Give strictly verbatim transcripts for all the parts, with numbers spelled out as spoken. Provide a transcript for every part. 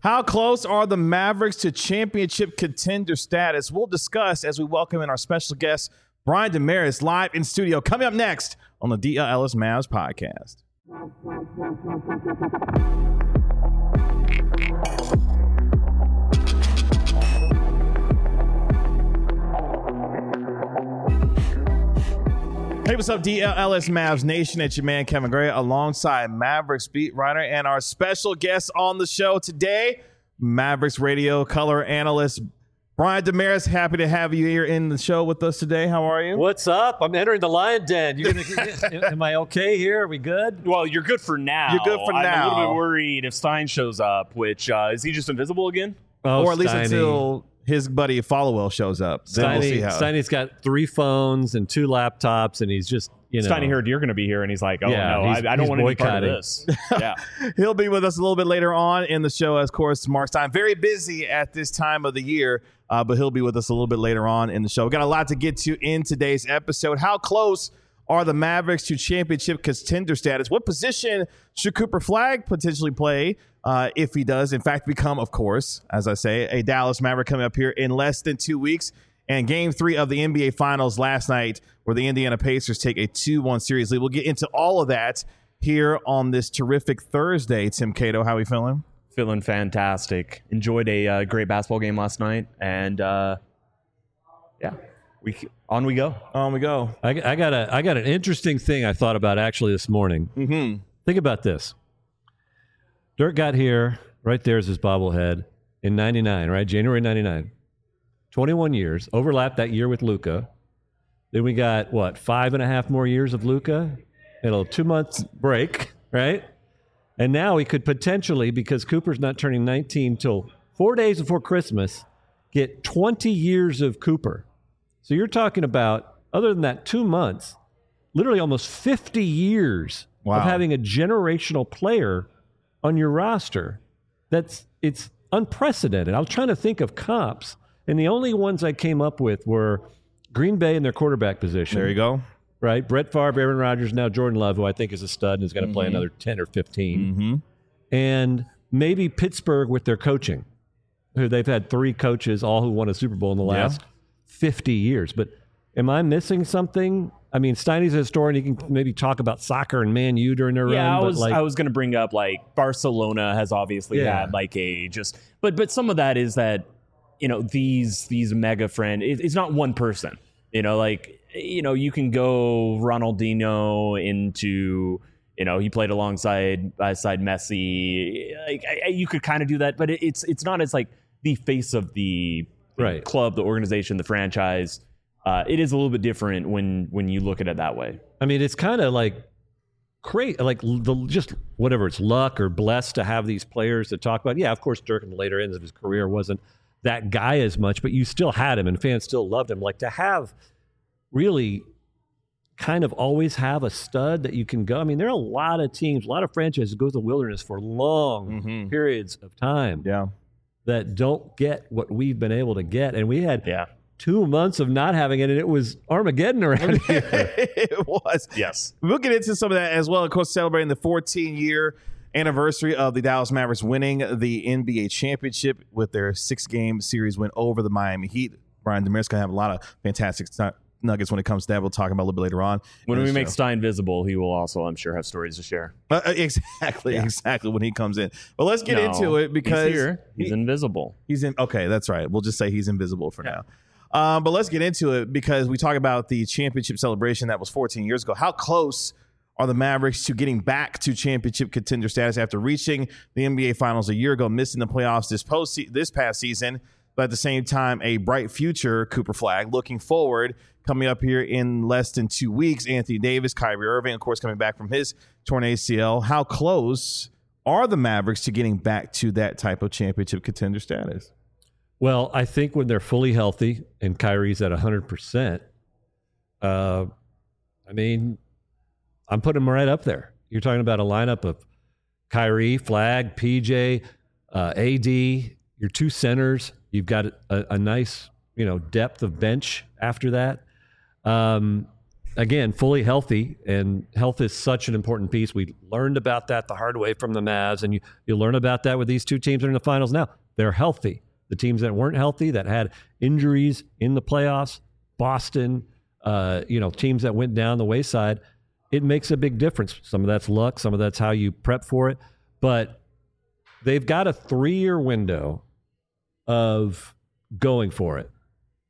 How close are the Mavericks to championship contender status? We'll discuss as we welcome in our special guest, Brian Dameris, live in studio. Coming up next on the D L Ellis Mavs podcast. Hey, what's up, D L Ellis Mavs Nation? It's your man, Kevin Gray, alongside Mavericks beat writer and our special guest on the show today, Mavericks radio color analyst, Brian Dameris. Happy to have you here in the show with us today. How are you? What's up? I'm entering the lion den. You're gonna, am I okay here? Are we good? Well, you're good for now. You're good for I'm now. I'm a little bit worried if Stein shows up, which, uh, is he just invisible again? Oh, or at least Steiny. until his buddy Followell shows up. Then Steiny, we'll see how. Steiny's got three phones and two laptops, and he's just, you know. Steiny heard you're going to be here, and he's like, oh, Yeah, no, he's- I, I don't he's want to be part of boycotting. this. Yeah. He'll be with us a little bit later on in the show, of course. Mark Stein, very busy at this time of the year, uh, but he'll be with us a little bit later on in the show. We've got a lot to get to in today's episode. How close are the Mavericks to championship contender status? What position should Cooper Flagg potentially play uh, if he does, in fact, become, of course, as I say, a Dallas Maverick coming up here in less than two weeks? And game three of the N B A Finals last night, where the Indiana Pacers take a two one series lead. We'll get into all of that here on this terrific Thursday. Tim Cato, how are we feeling? Feeling fantastic. Enjoyed a uh, great basketball game last night. And, uh, yeah, we on we go. On we go. I, I got a, I got an interesting thing I thought about actually this morning. Mm-hmm. Think about this. Dirk got here. Right there's his bobblehead in ninety-nine, right? January ninety-nine. twenty-one years. Overlapped that year with Luka. Then we got, what, five and a half more years of Luka? And a two months break, right? And now he could potentially, because Cooper's not turning nineteen till four days before Christmas, get twenty years of Cooper. So you're talking about, other than that two months, literally almost fifty years Wow. of having a generational player on your roster. That's it's unprecedented. I was trying to think of comps, and the only ones I came up with were Green Bay in their quarterback position. There you go. Right? Brett Favre, Aaron Rodgers, now Jordan Love, who I think is a stud and is going to Mm-hmm. play another ten or fifteen. Mm-hmm. And maybe Pittsburgh with their coaching, who they've had three coaches, all who won a Super Bowl in the Yeah. last fifty years. But am I missing something? I mean, Steiny's a historian. He can maybe talk about soccer and Man U during their Yeah, run. I but was like, I was going to bring up, like, Barcelona has obviously Yeah. had, like, a just – but but some of that is that, you know, these these mega friend it, it's not one person. You know, like, you know, you can go Ronaldinho into, you know, he played alongside alongside Messi. Like, I, I- you could kind of do that, but it, it's it's not as like the face of the, the Right. club, the organization, the franchise. Uh, it is a little bit different when when you look at it that way. I mean, it's kind of like great, like the just whatever it's luck or blessed to have these players to talk about. Yeah, of course, Dirk in the later ends of his career wasn't that guy as much, but you still had him and fans still loved him. Like to have really kind of always have a stud that you can go. I mean, there are a lot of teams, a lot of franchises go to the wilderness for long Mm-hmm. periods of time Yeah. that don't get what we've been able to get. And we had Yeah. two months of not having it, and it was Armageddon around here. It was. Yes. We'll get into some of that as well. Of course, celebrating the fourteen-year anniversary of the Dallas Mavericks winning the N B A championship with their six-game series win over the Miami Heat. Brian Dameris going to have a lot of fantastic st- nuggets when it comes to that. We'll talk about a little bit later on. When in we the make show. Stein visible, he will also, I'm sure, have stories to share. Uh, uh, exactly, Yeah. exactly when he comes in. But let's get No, into it because he's here. He's he- invisible. He's in. Okay, that's right. We'll just say he's invisible for now. Um, but let's get into it because we talk about the championship celebration that was fourteen years ago. How close are the Mavericks to getting back to championship contender status after reaching the N B A Finals a year ago, missing the playoffs this post this past season, but at the same time, a bright future Cooper Flagg looking forward coming up here in less than two weeks. Anthony Davis, Kyrie Irving, of course, coming back from his torn A C L. How close are the Mavericks to getting back to that type of championship contender status? Well, I think when they're fully healthy and Kyrie's at one hundred percent, uh, I mean, I'm putting him right up there. You're talking about a lineup of Kyrie, Flagg, P J, uh, A D, your two centers. You've got a, a nice, you know, depth of bench after that. Um, again, fully healthy, and health is such an important piece. We learned about that the hard way from the Mavs, and you, you learn about that with these two teams that are in the finals now. They're healthy. The teams that weren't healthy, that had injuries in the playoffs, Boston, uh, you know, teams that went down the wayside, it makes a big difference. Some of that's luck, some of that's how you prep for it. But they've got a three-year window of going for it.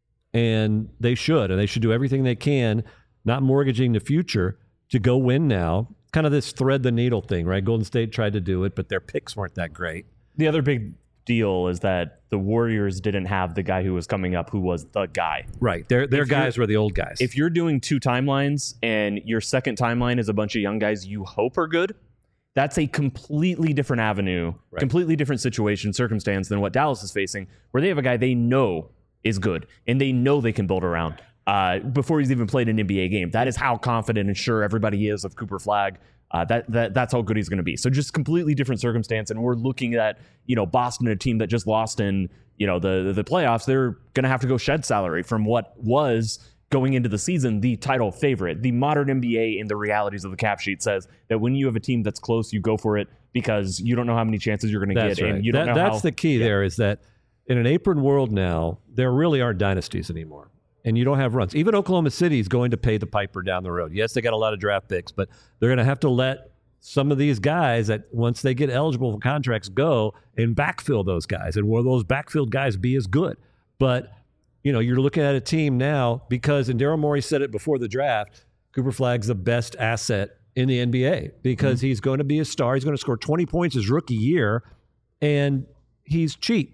And they should, and they should do everything they can, not mortgaging the future, to go win now. Kind of this thread the needle thing, right? Golden State tried to do it, but their picks weren't that great. The other big deal is that the Warriors didn't have the guy who was coming up who was the guy. Right. Their their guys were the old guys. If you're doing two timelines and your second timeline is a bunch of young guys you hope are good, that's a completely different avenue, right. completely different situation, circumstance than what Dallas is facing, where they have a guy they know is good and they know they can build around uh, before he's even played an N B A game. That is how confident and sure everybody is of Cooper Flagg. Uh, that that that's how good he's going to be. So just completely different circumstance, and we're looking at you know Boston, a team that just lost in you know the the playoffs. They're going to have to go shed salary from what was going into the season the title favorite. The modern N B A and the realities of the cap sheet says that when you have a team that's close, you go for it because you don't know how many chances you're going to get, right. and you don't that, know that's how, the key. Yeah. There is that in an apron world now, there really aren't dynasties anymore. And you don't have runs. Even Oklahoma City is going to pay the piper down the road. Yes, they got a lot of draft picks, but they're going to have to let some of these guys that once they get eligible for contracts go and backfill those guys. And will those backfilled guys be as good? But, you know, you're looking at a team now because, and Daryl Morey said it before the draft, Cooper Flagg's the best asset in the N B A because mm-hmm. he's going to be a star. He's going to score twenty points his rookie year, and he's cheap.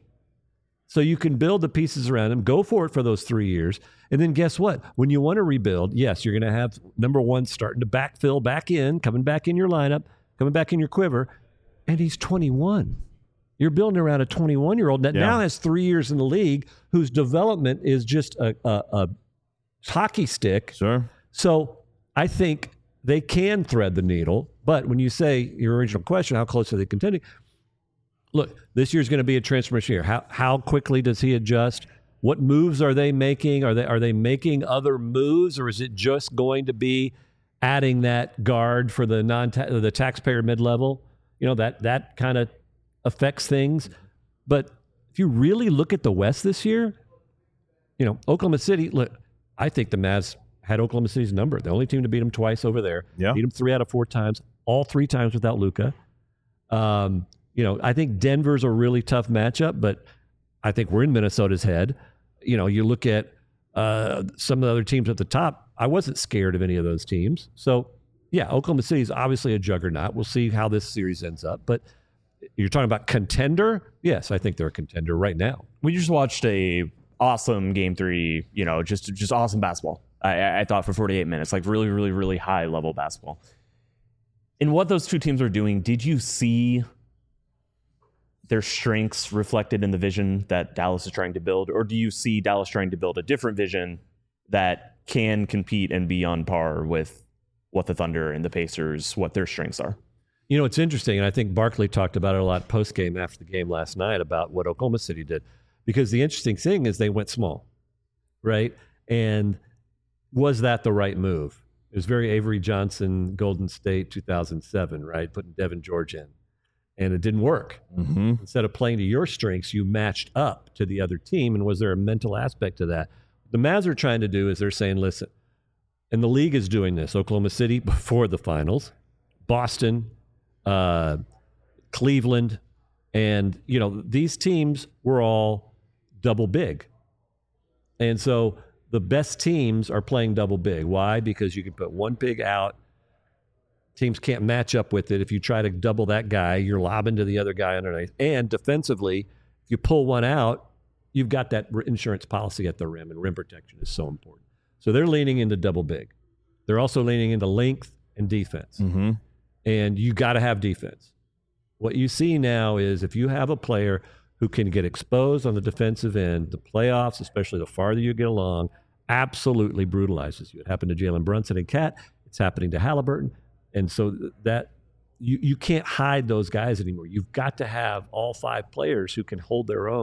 So you can build the pieces around him, go for it for those three years. And then guess what? When you want to rebuild, yes, you're going to have number one starting to backfill back in, coming back in your lineup, coming back in your quiver. And he's twenty-one. You're building around a twenty-one-year-old that yeah. now has three years in the league whose development is just a, a, a hockey stick. Sure. So I think they can thread the needle. But when you say your original question, how close are they contending? Look, this year's going to be a transformation year. How how quickly does he adjust? What moves are they making? Are they are they making other moves, or is it just going to be adding that guard for the non the taxpayer mid level? You know that that kind of affects things. But if you really look at the West this year, you know Oklahoma City. Look, I think the Mavs had Oklahoma City's number. The only team to beat them twice over there. Yeah. Beat them three out of four times. All three times without Luka. Um. You know, I think Denver's a really tough matchup, but I think we're in Minnesota's head. You know, you look at uh, some of the other teams at the top. I wasn't scared of any of those teams. So, yeah, Oklahoma City is obviously a juggernaut. We'll see how this series ends up. But you're talking about contender? Yes, I think they're a contender right now. We just watched a awesome game three. You know, just just awesome basketball. I, I thought for forty-eight minutes, like really, really, really high level basketball. In what those two teams are doing, did you see their strengths reflected in the vision that Dallas is trying to build? Or do you see Dallas trying to build a different vision that can compete and be on par with what the Thunder and the Pacers, what their strengths are? You know, it's interesting, and I think Barkley talked about it a lot post-game after the game last night about what Oklahoma City did. Because the interesting thing is they went small, right? And was that the right move? It was very Avery Johnson, Golden State, two thousand seven, right? Putting Devin George in. And it didn't work. Mm-hmm. Instead of playing to your strengths, you matched up to the other team. And was there a mental aspect to that? What the Mavs are trying to do is they're saying, listen, and the league is doing this. Oklahoma City before the finals, Boston, uh, Cleveland, and, you know, these teams were all double big. And so the best teams are playing double big. Why? Because you can put one big out. Teams can't match up with it. If you try to double that guy, you're lobbing to the other guy underneath. And defensively, if you pull one out, you've got that insurance policy at the rim, and rim protection is so important. So they're leaning into double big. They're also leaning into length and defense. Mm-hmm. And you got to have defense. What you see now is if you have a player who can get exposed on the defensive end, the playoffs, especially the farther you get along, absolutely brutalizes you. It happened to Jalen Brunson and Cat. It's happening to Halliburton. And so that you, you can't hide those guys anymore. You've got to have all five players who can hold their own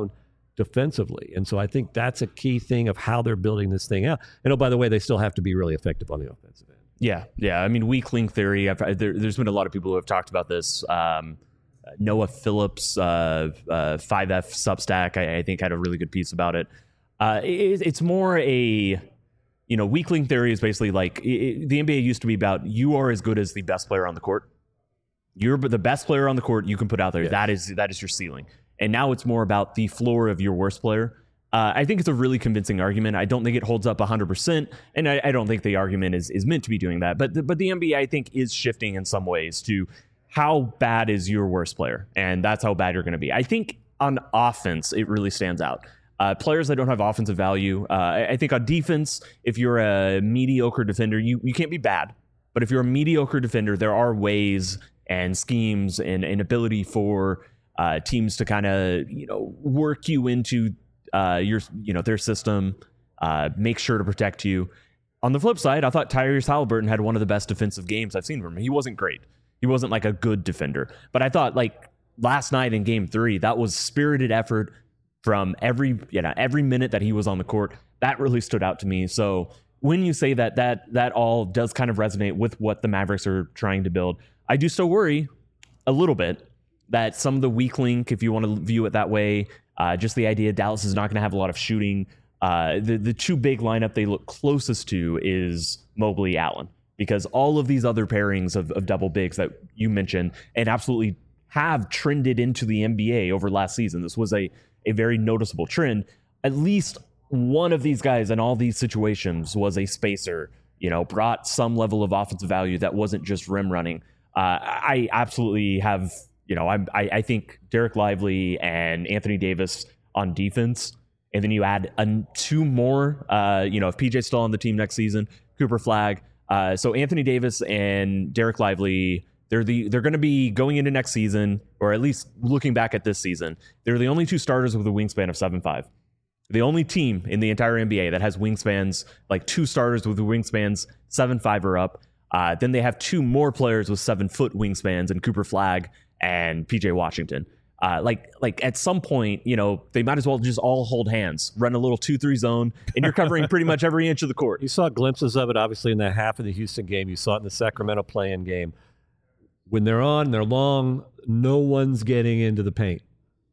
defensively. And so I think that's a key thing of how they're building this thing out. And oh, by the way, they still have to be really effective on the offensive end. Yeah, yeah. I mean, weak link theory. I've, there, there's been a lot of people who have talked about this. Um, Noah Phillips, uh, uh, five F Substack, I, I think had a really good piece about it. Uh, it. It's more a, you know, weak link theory is basically like it, the N B A used to be about you are as good as the best player on the court. You're the best player on the court you can put out there. Yes. That is that is your ceiling. And now it's more about the floor of your worst player. Uh, I think it's a really convincing argument. I don't think it holds up one hundred percent, and I, I don't think the argument is, is meant to be doing that. But the, but the N B A, I think, is shifting in some ways to how bad is your worst player, and that's how bad you're going to be. I think on offense, it really stands out. Uh, players that don't have offensive value, uh, I, I think on defense, if you're a mediocre defender, you, you can't be bad. But if you're a mediocre defender, there are ways and schemes and, and ability for uh, teams to kind of, you know, work you into Uh, your, you know, their system, uh, make sure to protect you. On the flip side, I thought Tyrese Halliburton had one of the best defensive games I've seen from him. He wasn't great. He wasn't like a good defender, but I thought like last night in game three, that was spirited effort from every, you know, every minute that he was on the court. That really stood out to me. So when you say that, that, that all does kind of resonate with what the Mavericks are trying to build. I do still worry a little bit that some of the weak link, if you want to view it that way, Uh, just the idea Dallas is not going to have a lot of shooting. Uh, the, the two big lineup they look closest to is Mobley Allen, because all of these other pairings of, of double bigs that you mentioned and absolutely have trended into the N B A over last season. This was a, a very noticeable trend. At least one of these guys in all these situations was a spacer, you know, brought some level of offensive value that wasn't just rim running. Uh, I absolutely have... You know, I, I I think Derek Lively and Anthony Davis on defense, and then you add a, two more. Uh, you know, if P J's still on the team next season, Cooper Flagg. Uh, so Anthony Davis and Derek Lively, they're the they're going to be going into next season, or at least looking back at this season. They're the only two starters with a wingspan of seven five. The only team in the entire N B A that has wingspans like two starters with wingspans seven five or up. Uh, then they have two more players with seven foot wingspans, and Cooper Flagg and P J Washington. Uh, like, like at some point, you know, they might as well just all hold hands, run a little two three zone, and you're covering pretty much every inch of the court. You saw glimpses of it, obviously, in that half of the Houston game. You saw it in the Sacramento play-in game. When they're on, they're long, no one's getting into the paint.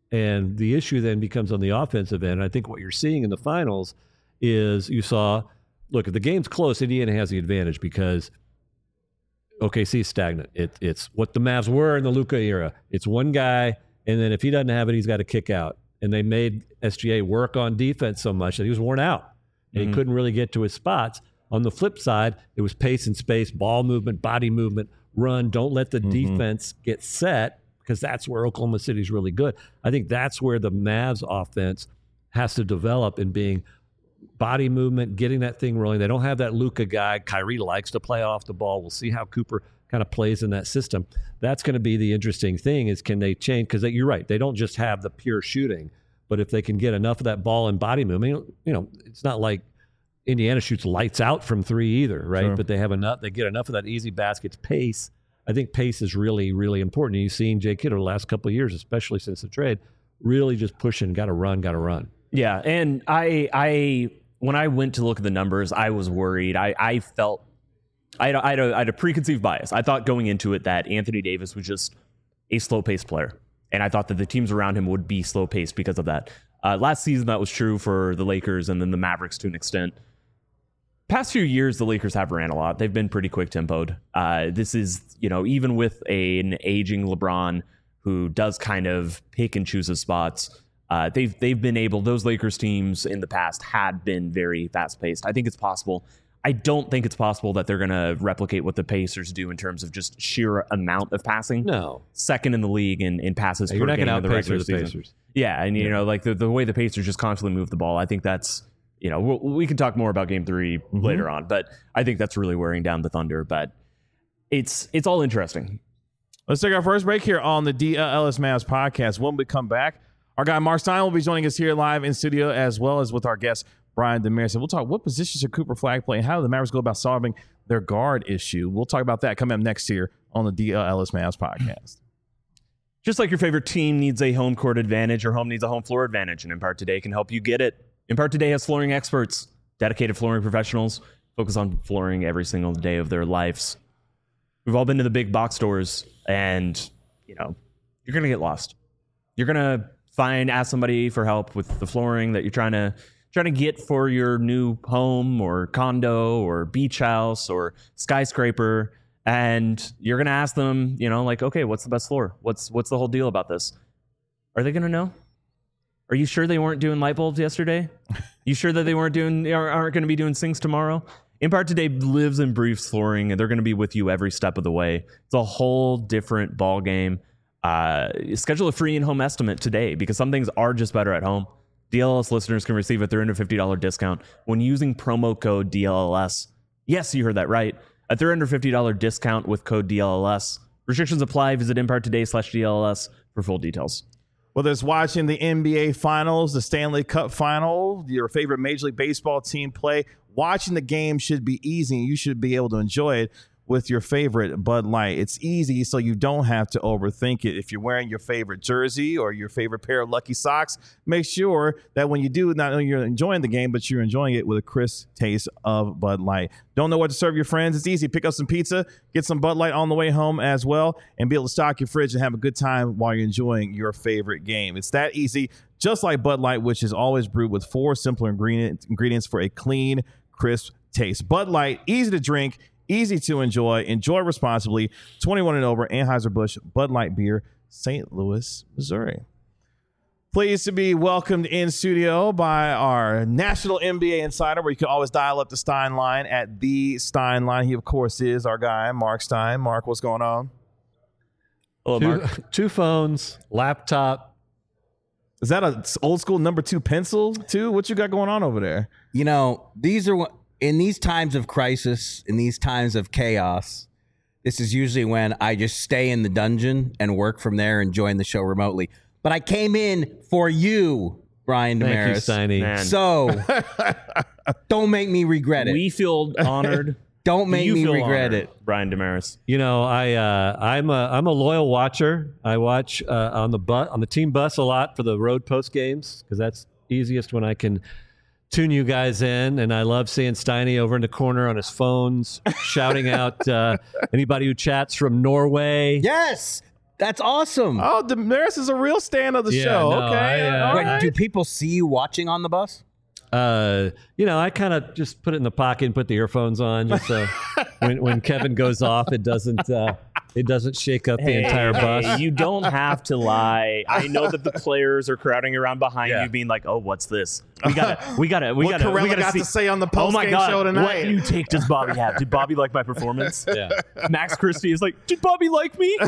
And the issue then becomes on the offensive end. I think what you're seeing in the finals is you saw, look, if the game's close, Indiana has the advantage because O K C is stagnant. It, it's what the Mavs were in the Luka era. It's one guy, and then if he doesn't have it, he's got to kick out. And they made S G A work on defense so much that he was worn out, and mm-hmm. he couldn't really get to his spots. On the flip side, it was pace and space, ball movement, body movement, run. Don't let the mm-hmm. defense get set, because that's where Oklahoma City is really good. I think that's where the Mavs offense has to develop in being body movement, getting that thing rolling. They don't have that Luka guy. Kyrie likes to play off the ball. We'll see how Cooper kind of plays in that system. That's going to be the interesting thing is can they change? Because you're right. They don't just have the pure shooting, but if they can get enough of that ball and body movement, you know, it's not like Indiana shoots lights out from three either, right? Sure. But they have enough. They get enough of that easy baskets. Pace. I think pace is really, really important. And you've seen Jay Kidd over the last couple of years, especially since the trade, really just pushing, got to run, got to run. Yeah, and I, I, when I went to look at the numbers, I was worried. I, I felt, I had, a, I, had a, I had a preconceived bias. I thought going into it that Anthony Davis was just a slow-paced player, and I thought that the teams around him would be slow-paced because of that. Uh, last season, that was true for the Lakers and then the Mavericks to an extent. Past few years, the Lakers have ran a lot. They've been pretty quick-tempoed. Uh, this is, you know, even with a, an aging LeBron who does kind of pick and choose his spots. Uh, they've they've been able, those Lakers teams in the past had been very fast-paced. I think it's possible. I don't think it's possible that they're going to replicate what the Pacers do in terms of just sheer amount of passing. No. Second in the league in, in passes yeah, per game in in the regular the season. Pacers. Yeah, and you yeah. know, like the, the way the Pacers just constantly move the ball, I think that's, you know, we'll, we can talk more about game three mm-hmm. later on, but I think that's really wearing down the Thunder. But it's it's all interesting. Let's take our first break here on the D L S Mavs podcast. When we come back, our guy Mark Stein will be joining us here live in studio, as well as with our guest Brian Damaris. And we'll talk what positions should Cooper Flagg play and how do the Mavericks go about solving their guard issue. We'll talk about that coming up next year on the D L S Mavs podcast. Just like your favorite team needs a home court advantage, your home needs a home floor advantage, and Empire Today can help you get it. Empire Today has flooring experts, dedicated flooring professionals, focus on flooring every single day of their lives. We've all been to the big box stores, and you know, you're gonna get lost. You're gonna find ask somebody for help with the flooring that you're trying to trying to get for your new home or condo or beach house or skyscraper. And you're going to ask them, you know, like, okay, what's the best floor? What's what's the whole deal about this? Are they going to know? Are you sure they weren't doing light bulbs yesterday? You sure that they weren't doing, aren't going to be doing sinks tomorrow? Empire Today lives and breathes flooring, and they're going to be with you every step of the way. It's a whole different ball game. Uh, schedule a free in-home estimate today because some things are just better at home. D L L S listeners can receive a three hundred fifty dollars discount when using promo code D L L S. Yes, you heard that right. A three hundred fifty dollars discount with code D L L S. Restrictions apply. Visit Empire Today slash D L L S for full details. Whether it's watching the N B A Finals, the Stanley Cup Final, your favorite Major League Baseball team play, watching the game should be easy. You should be able to enjoy it with your favorite Bud Light. It's easy, so you don't have to overthink it. If you're wearing your favorite jersey or your favorite pair of Lucky Socks, make sure that when you do, not only you're enjoying the game, but you're enjoying it with a crisp taste of Bud Light. Don't know what to serve your friends? It's easy. Pick up some pizza, get some Bud Light on the way home as well, and be able to stock your fridge and have a good time while you're enjoying your favorite game. It's that easy, just like Bud Light, which is always brewed with four simpler ingredient, ingredients for a clean, crisp taste. Bud Light, easy to drink, easy to enjoy. Enjoy responsibly. twenty-one and over. Anheuser-Busch Bud Light Beer, Saint Louis, Missouri. Pleased to be welcomed in studio by our national N B A insider, where you can always dial up the Stein line at the Stein line. He, of course, is our guy, Mark Stein. Mark, what's going on? Hello, Two, Mark. two phones, laptop. Is that a old school number two pencil, too? What you got going on over there? You know, these are what, in these times of crisis, in these times of chaos, this is usually when I just stay in the dungeon and work from there and join the show remotely. But I came in for you, Brian Damaris. Thank you, Steiny. Man. So don't make me regret it. We feel honored. Don't make You me feel regret honored, it. Brian Damaris. You know, I uh, I'm a I'm a loyal watcher. I watch uh, on the bus on the team bus a lot for the road post games because that's easiest when I can tune you guys in. And I love seeing Steiny over in the corner on his phones shouting out uh, anybody who chats from Norway. Yes, that's awesome. Oh, Damaris is a real fan of the Yeah, show. no, okay. I, uh, all Wait, right. do people see you watching on the bus? Uh, you know, I kind of just put it in the pocket and put the earphones on, just so when when Kevin goes off, it doesn't uh, it doesn't shake up the Hey, entire bus. hey, you don't have to lie. I know that the players are crowding around behind Yeah. you, being like, "Oh, what's this? We gotta, we gotta, we what gotta, we Corella gotta got see." to say on the Oh my post-game god! show What tonight. new take does Bobby have? Did Bobby like my performance? Yeah. Max Christie is like, "Did Bobby like me?"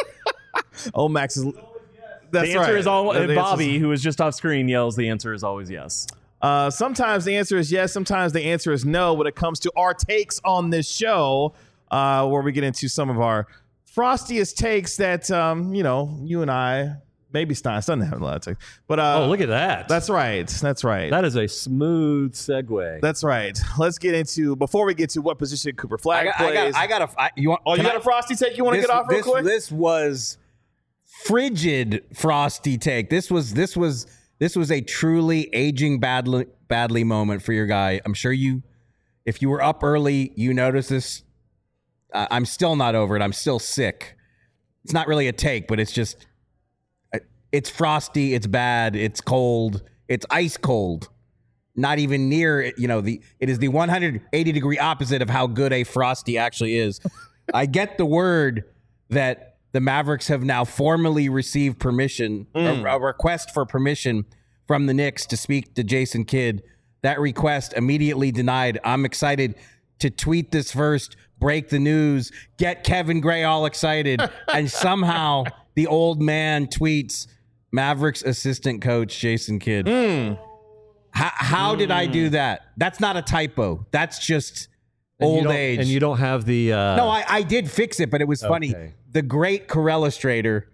Oh, Max is. That's the answer right. is all. The answer is- Bobby, who is just off screen, yells. The answer is always yes. Uh, sometimes the answer is yes. Sometimes the answer is no when it comes to our takes on this show, uh, where we get into some of our frostiest takes that, um, you know, you and I, maybe Stein, Stein doesn't have a lot of takes. But, uh, Oh, look at that. that's right. That's right. That is a smooth segue. That's right. Let's get into, before we get to what position Cooper I Flag got, I plays. got, I got a. I, you want? oh, you can got I- a frosty take you want to this, get off real this, quick? This was frigid frosty take. This was this was this was a truly aging badly badly moment for your guy. I'm sure you, if you were up early, you noticed this. Uh, I'm still not over it. I'm still sick. It's not really a take, but it's just uh, it's frosty. It's bad. It's cold. It's ice cold. Not even near, you know, the it is the one hundred eighty degree opposite of how good a frosty actually is. I get the word that the Mavericks have now formally received permission, Mm. a, a request for permission from the Knicks to speak to Jason Kidd. That request immediately denied. I'm excited to tweet this first, break the news, get Kevin Gray all excited, and somehow the old man tweets Mavericks assistant coach Jason Kidd. Mm. How, how did I do that? That's not a typo. That's just And you old don't- age. And you don't have the. Uh, no, I, I did fix it, but it was funny. Okay. The great Corellustrator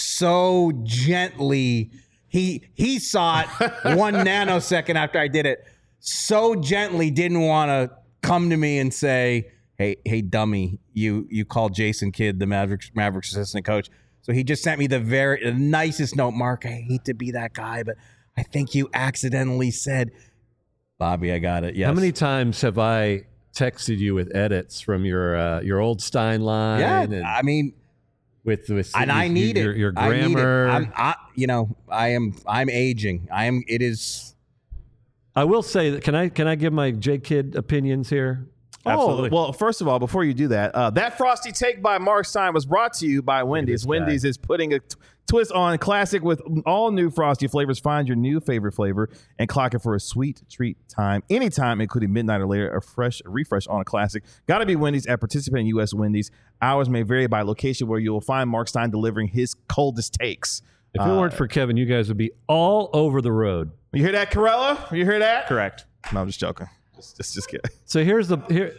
so gently, he he saw it one nanosecond after I did it, so gently didn't want to come to me and say, hey, hey, dummy, you you called Jason Kidd the Mavericks, Mavericks assistant coach. So he just sent me the very the nicest note. Mark, I hate to be that guy, but I think you accidentally said, Bobby, I got it. Yes. How many times have I texted you with edits from your uh, your old Stein line? Yeah, and I mean, with with and I need your, it. Your I need it. grammar. I'm, I, you know, I am. I'm aging. I am. It is. I will say that. Can I can I give my J Kid opinions here? Absolutely. Oh, well, first of all, before you do that, uh, that Frosty Take by Mark Stein was brought to you by Wendy's. this guy. Wendy's is putting a t- twist on classic with all new Frosty flavors. Find your new favorite flavor and clock it for a sweet treat time anytime, including midnight or later. A fresh refresh on a classic. Got to be Wendy's at participating U S Wendy's. Hours may vary by location, where you will find Mark Stein delivering his coldest takes. If it Uh, weren't for Kevin, you guys would be all over the road. You hear that, Corella? You hear that? Correct. No, I'm just joking. Just, just, just kidding. So here's the here.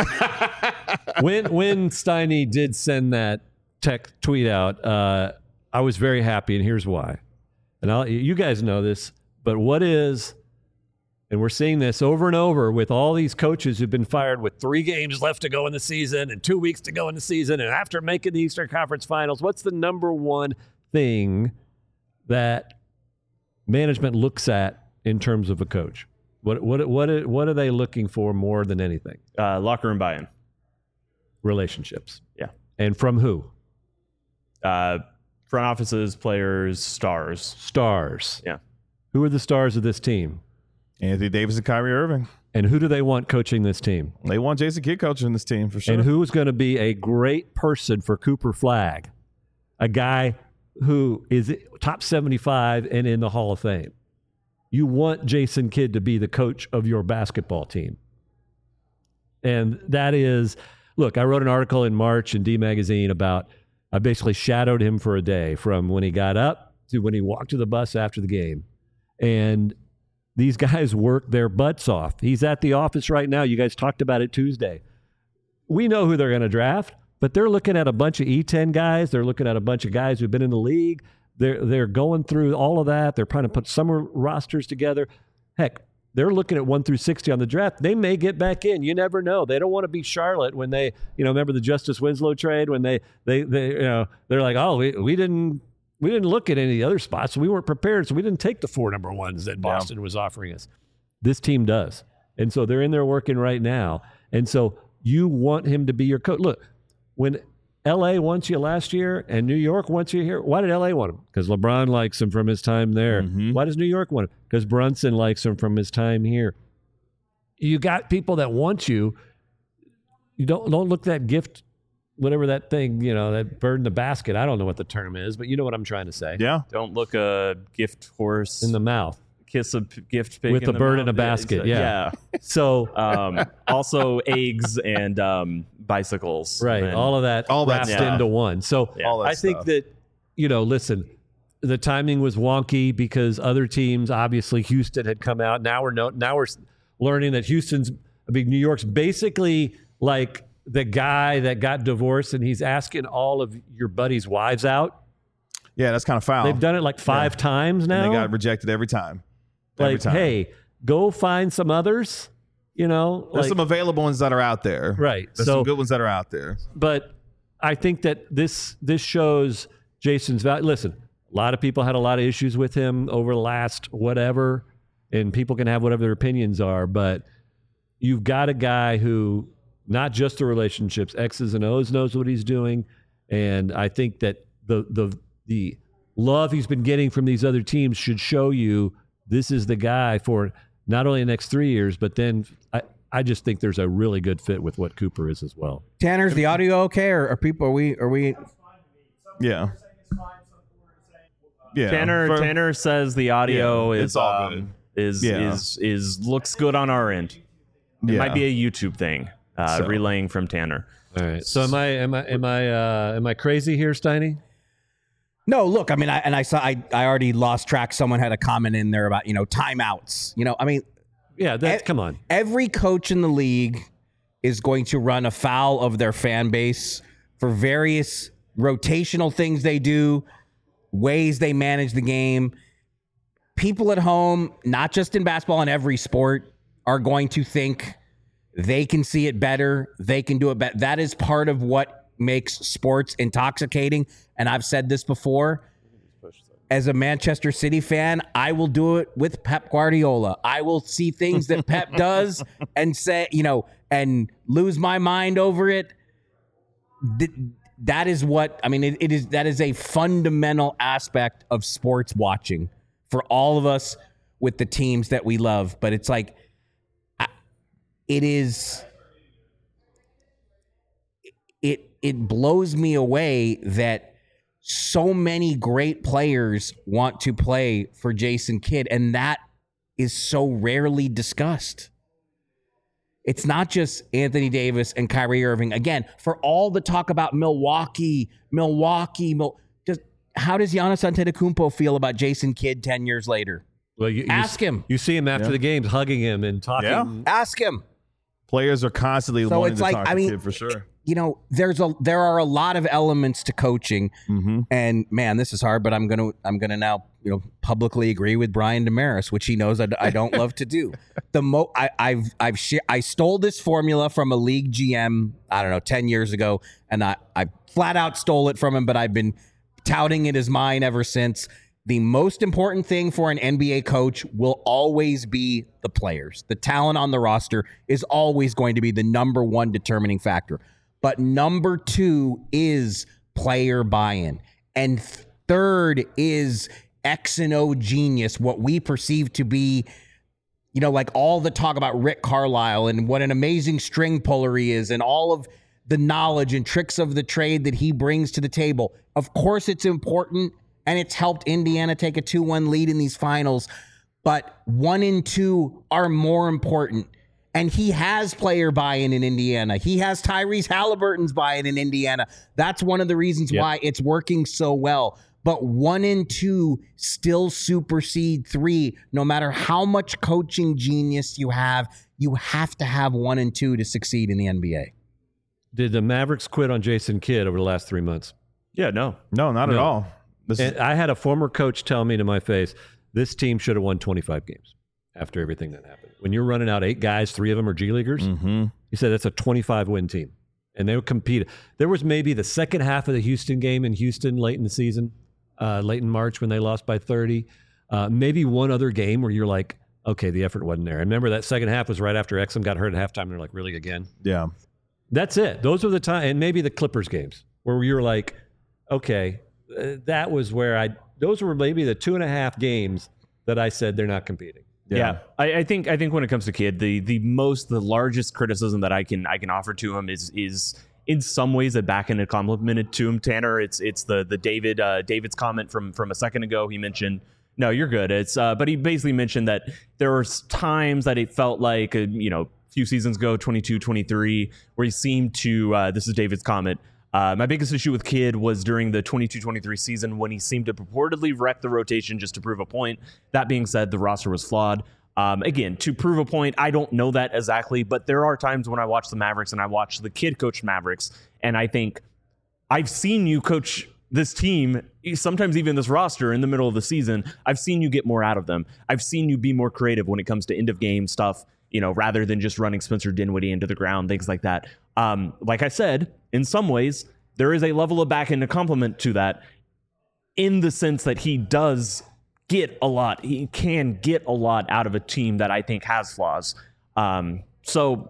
when when Steiny did send that tech tweet out, uh, I was very happy, and here's why. And I'll, you guys know this, but what is, and we're seeing this over and over with all these coaches who've been fired with three games left to go in the season and two weeks to go in the season, and after making the Eastern Conference Finals, what's the number one thing that management looks at in terms of a coach? What what what what are they looking for more than anything? Uh, locker room buy-in. Relationships. Yeah. And from who? Uh, front offices, players, stars. Stars. Yeah. Who are the stars of this team? Anthony Davis and Kyrie Irving. And who do they want coaching this team? They want Jason Kidd coaching this team for sure. And who's going to be a great person for Cooper Flagg? A guy who is top seventy-five and in the Hall of Fame. You want Jason Kidd to be the coach of your basketball team. And that is, look, I wrote an article in March in D Magazine about, I basically shadowed him for a day from when he got up to when he walked to the bus after the game. And these guys work their butts off. He's at the office right now. You guys talked about it Tuesday. We know who they're going to draft, but they're looking at a bunch of E ten guys. They're looking at a bunch of guys who've been in the league. They're they're going through all of that. They're trying to put summer rosters together. Heck, they're looking at one through sixty on the draft. They may get back in. You never know. They don't want to be Charlotte when they, you know, remember the Justice Winslow trade when they they they you know they're like, oh, we, we didn't we didn't look at any of the other spots. So we weren't prepared, so we didn't take the four number ones that Boston yeah. was offering us. This team does, and so they're in there working right now. And so you want him to be your coach. Look, when L A wants you last year and New York wants you here. Why did L A want him? Because LeBron likes him from his time there. Mm-hmm. Why does New York want him? Because Brunson likes him from his time here. You got people that want you. You don't don't look that gift, whatever that thing, you know, that bird in the basket. I don't know what the term is, but you know what I'm trying to say. Yeah. Don't look a gift horse in the mouth. Kiss a p- gift pig with in a the bird mouth. in a basket. Yeah. yeah. So um, also eggs and um, bicycles. Right. And all of that all wrapped yeah. into one. So yeah. all that I think stuff. that, you know, listen, the timing was wonky because other teams, obviously Houston had come out. Now we're no, now we're learning that Houston's, I mean, New York's basically like the guy that got divorced and he's asking all of your buddies' wives out. Yeah, that's kind of foul. They've done it like five yeah. times now. And they got rejected every time. Every like, time. hey, go find some others, you know. There's like, some available ones that are out there. Right. There's so, some good ones that are out there. But I think that this this shows Jason's value. Listen, a lot of people had a lot of issues with him over the last whatever, and people can have whatever their opinions are, but you've got a guy who, not just the relationships, X's and O's, knows what he's doing, and I think that the the the love he's been getting from these other teams should show you this is the guy for not only the next three years, but then I, I just think there's a really good fit with what Cooper is as well. Tanner's the audio okay, or are people are we are we? Yeah. Yeah. Tanner For, Tanner says the audio yeah, is it's all um, good. is Yeah. is is looks good on our end. It yeah. might be a YouTube thing. Uh, So. relaying from Tanner. All right. So am I am I am I uh, am I crazy here, Steiny? No, look, I mean, I, and I saw, I, I already lost track. Someone had a comment in there about, you know, timeouts. You know, I mean, Yeah, that's e- come on. every coach in the league is going to run afoul of their fan base for various rotational things they do, ways they manage the game. People at home, not just in basketball, in every sport, are going to think they can see it better. They can do it better. That is part of what makes sports intoxicating. And I've said this before. As a Manchester City fan, I will do it with Pep Guardiola. I will see things that Pep does and say, you know, and lose my mind over it. That is what, I mean, it, it is, that is a fundamental aspect of sports watching for all of us with the teams that we love. But it's like, it is, it, it blows me away that so many great players want to play for Jason Kidd, and that is so rarely discussed. It's not just Anthony Davis and Kyrie Irving. Again, for all the talk about Milwaukee, Milwaukee, Mil- just how does Giannis Antetokounmpo feel about Jason Kidd ten years later? Well, you, Ask you, him. You see him after Yeah. the games hugging him and talking. Yeah. Ask him. Players are constantly So wanting it's to like, talk I to mean, Kidd for sure. You know, there's a there are a lot of elements to coaching, Mm-hmm. and man, this is hard. But I'm gonna I'm gonna now you know publicly agree with Brian Damaris, which he knows I, I don't love to do. The mo I, I've I've sh- I stole this formula from a league G M I don't know ten years ago, and I I flat out stole it from him. But I've been touting it as mine ever since. The most important thing for an N B A coach will always be the players. The talent on the roster is always going to be the number one determining factor. But number two is player buy-in. And third is X and O genius, what we perceive to be, you know, like all the talk about Rick Carlisle and what an amazing string puller he is and all of the knowledge and tricks of the trade that he brings to the table. Of course, it's important, and it's helped Indiana take a two one lead in these finals, but one and two are more important. And he has player buy-in in Indiana. He has Tyrese Halliburton's buy-in in Indiana. That's one of the reasons Yep. why it's working so well. But one and two still supersede three. No matter how much coaching genius you have, you have to have one and two to succeed in the N B A. Did the Mavericks quit on Jason Kidd over the last three months? Yeah, no. No, not No. at all. This is, And I had a former coach tell me to my face, this team should have won twenty-five games after everything that happened. When you're running out eight guys, three of them are G Leaguers, mm-hmm. he said that's a twenty-five win team. And they would compete. There was maybe the second half of the Houston game in Houston late in the season, uh, late in March when they lost by thirty. Uh, maybe one other game where you're like, okay, the effort wasn't there. And remember that second half was right after Exum got hurt at halftime. And they're like, really again? Yeah. That's it. Those were the time, and maybe the Clippers games where you were like, okay, uh, that was where I. Those were maybe the two and a half games that I said they're not competing. Yeah. Yeah, I, I think I think when it comes to Kidd, the the most the largest criticism that I can I can offer to him is is in some ways a backhanded compliment to him, Tanner. It's it's the the David uh, David's comment from from a second ago. He mentioned, no, you're good. It's uh, but he basically mentioned that there were times that it felt like a, you know, a few seasons ago, twenty-two, twenty-three, where he seemed to. Uh, this is David's comment. Uh, my biggest issue with Kidd was during the twenty-two twenty-three season when he seemed to purportedly wreck the rotation just to prove a point. That being said, the roster was flawed. Um, again, to prove a point, I don't know that exactly, but there are times when I watch the Mavericks and I watch the Kidd coach Mavericks, and I think, I've seen you coach this team, sometimes even this roster in the middle of the season. I've seen you get more out of them. I've seen you be more creative when it comes to end of game stuff, you know, rather than just running Spencer Dinwiddie into the ground, things like that. Um, like I said, in some ways, there is a level of back end compliment to that in the sense that he does get a lot. He can get a lot out of a team that I think has flaws. Um, so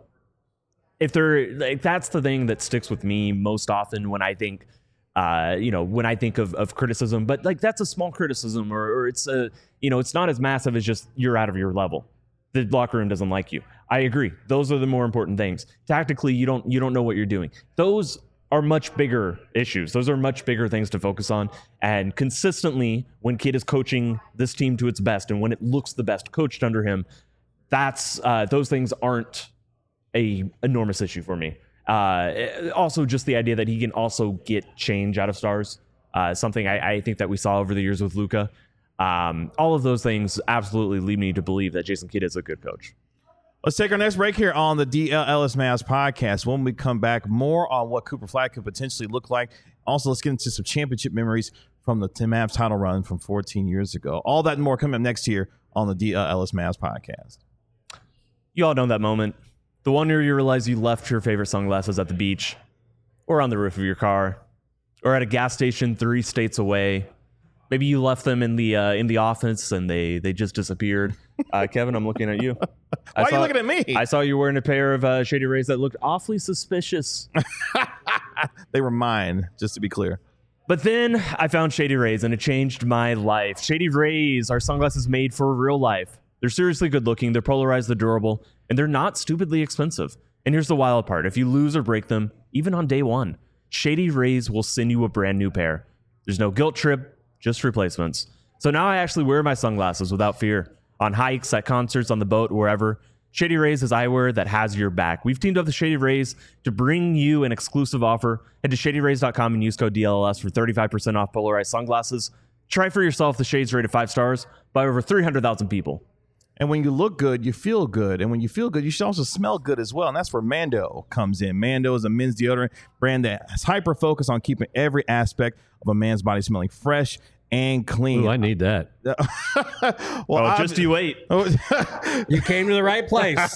if there, like, that's the thing that sticks with me most often when I think, uh, you know, when I think of, of criticism, but like, that's a small criticism, or, or it's a, you know, it's not as massive as just you're out of your level. The locker room doesn't like you. I agree. Those are the more important things. Tactically, you don't, you don't know what you're doing. Those are much bigger issues. Those are much bigger things to focus on. And consistently, when Kidd is coaching this team to its best, and when it looks the best coached under him, that's uh, those things aren't a enormous issue for me. Uh, also, just the idea that he can also get change out of stars, uh, something I, I think that we saw over the years with Luka. Um, all of those things absolutely lead me to believe that Jason Kidd is a good coach. Let's take our next break here on the D L Ellis Mavs podcast. When we come back, more on what Cooper Flag could potentially look like. Also, let's get into some championship memories from the Mavs title run from fourteen years ago. All that and more coming up next year on the D L Ellis Mavs podcast. You all know that moment. The one where you realize you left your favorite sunglasses at the beach. or on the roof of your car, or at a gas station three states away. Maybe you left them in the uh, in the office and they they just disappeared. Uh, Kevin, I'm looking at you. Why I are saw, you looking at me? I saw you wearing a pair of uh, Shady Rays that looked awfully suspicious. They were mine, just to be clear. But then I found Shady Rays and it changed my life. Shady Rays are sunglasses made for real life. They're seriously good looking, they're polarized, they're durable, and they're not stupidly expensive. And here's the wild part. If you lose or break them, even on day one, Shady Rays will send you a brand new pair. There's no guilt trip, just replacements. So now I actually wear my sunglasses without fear. On hikes, at concerts, on the boat, wherever. Shady Rays is eyewear that has your back. We've teamed up with Shady Rays to bring you an exclusive offer. Head to shady rays dot com and use code D L L S for thirty-five percent off polarized sunglasses. Try for yourself the shades rated five stars by over three hundred thousand people. And when you look good, you feel good. And when you feel good, you should also smell good as well. And that's where Mando comes in. Mando is a men's deodorant brand that has hyper focus on keeping every aspect of a man's body smelling fresh and clean. Ooh, I need that. well, Oh, just you wait. You came to the right place.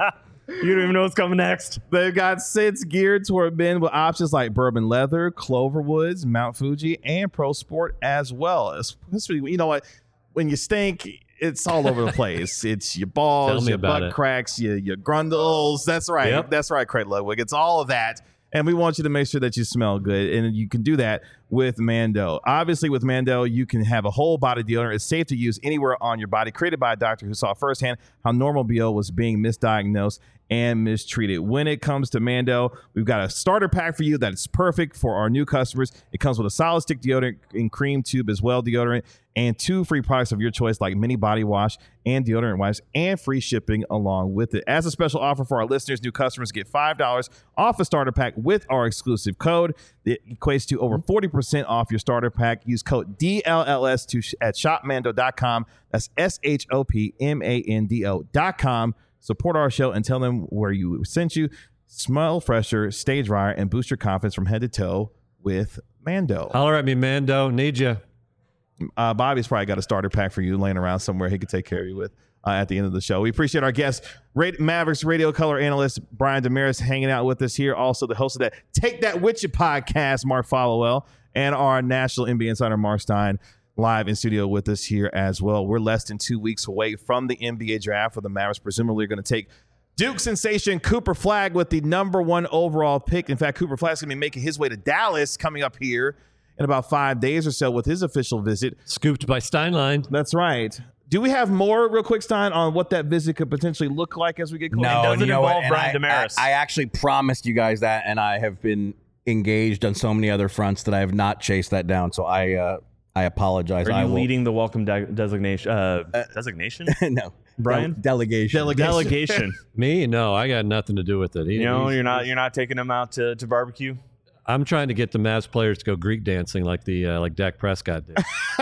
You don't even know what's coming next. They've got scents geared toward men with options like bourbon leather, Cloverwoods, Mount Fuji, and Pro Sport as well. Especially, you know what? When you stink, it's all over the place. It's your balls, your butt it. cracks, your, your grundles. That's right. Yep. That's right, Craig Ludwig. It's all of that. And we want you to make sure that you smell good. And you can do that with Mando. Obviously, with Mando, you can have a whole body deodorant. It's safe to use anywhere on your body. Created by a doctor who saw firsthand how normal B O was being misdiagnosed and mistreated. When it comes to Mando, we've got a starter pack for you that is perfect for our new customers. It comes with a solid stick deodorant and cream tube as well, deodorant, and two free products of your choice like mini body wash and deodorant wipes, and free shipping along with it. As a special offer for our listeners, new customers get five dollars off a starter pack with our exclusive code. It equates to over forty percent off your starter pack. Use code D L L S to sh- at shop mando dot com. That's S H O P M A N D O dot com. Support our show and tell them where you sent you. Smell fresher, stay drier, and boost your confidence from head to toe with Mando. Holler at me, Mando. Need you. Uh, Bobby's probably got a starter pack for you laying around somewhere he could take care of you with uh, at the end of the show. We appreciate our guest, Ra- Mavericks radio color analyst Brian Damaris, hanging out with us here. Also, the host of that Take That With You podcast, Mark Followell, and our national N B A insider, Mark Stein, live in studio with us here as well. We're less than two weeks away from the N B A draft, where the Mavericks presumably are going to take Duke sensation Cooper Flagg with the number one overall pick. In fact, Cooper Flagg's going to be making his way to Dallas coming up here in about five days or so with his official visit. Scooped by Steinlein. That's right. Do we have more, real quick, Stein, on what that visit could potentially look like as we get closer? No, doesn't and you know involve what? And Brian I, Damaris. I, I actually promised you guys that, and I have been engaged on so many other fronts that I have not chased that down. So I uh, I apologize. Are I you will, leading the welcome de- designation? Uh, designation? no, Brian? Del- delegation. Delegation. Delegation. Me? No, I got nothing to do with it. He- You know, he's- you're not you're not taking them out to, to barbecue. I'm trying to get the Mavs players to go Greek dancing like the uh, like Dak Prescott did.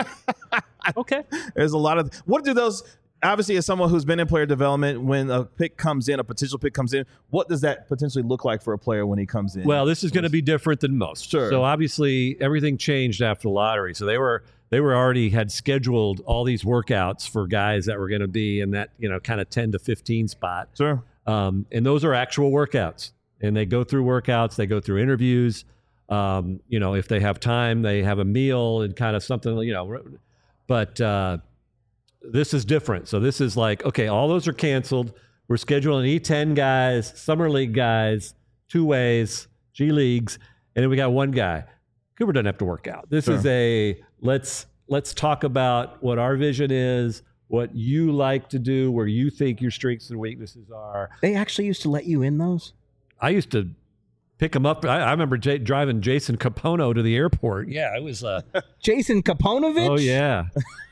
Okay. There's a lot of what do those obviously, as someone who's been in player development, when a pick comes in, a potential pick comes in, what does that potentially look like for a player when he comes in? Well, this is going to be different than most. Sure. So obviously everything changed after the lottery. So they were they were already had scheduled all these workouts for guys that were going to be in that, you know, kind of ten to fifteen spot. Sure. Um, and those are actual workouts. And they go through workouts, they go through interviews. Um, you know, if they have time, they have a meal and kind of something, you know, but uh, this is different. So this is like, okay, all those are canceled. We're scheduling E ten guys, summer league guys, two ways, G leagues, and then we got one guy. Cooper doesn't have to work out. This Sure. is a let's let's talk about what our vision is, what you like to do, where you think your strengths and weaknesses are. They actually used to let you in those? I used to pick him up. I, I remember J- driving Jason Capono to the airport. Yeah, it was. Uh, Jason Kaponovich? oh yeah.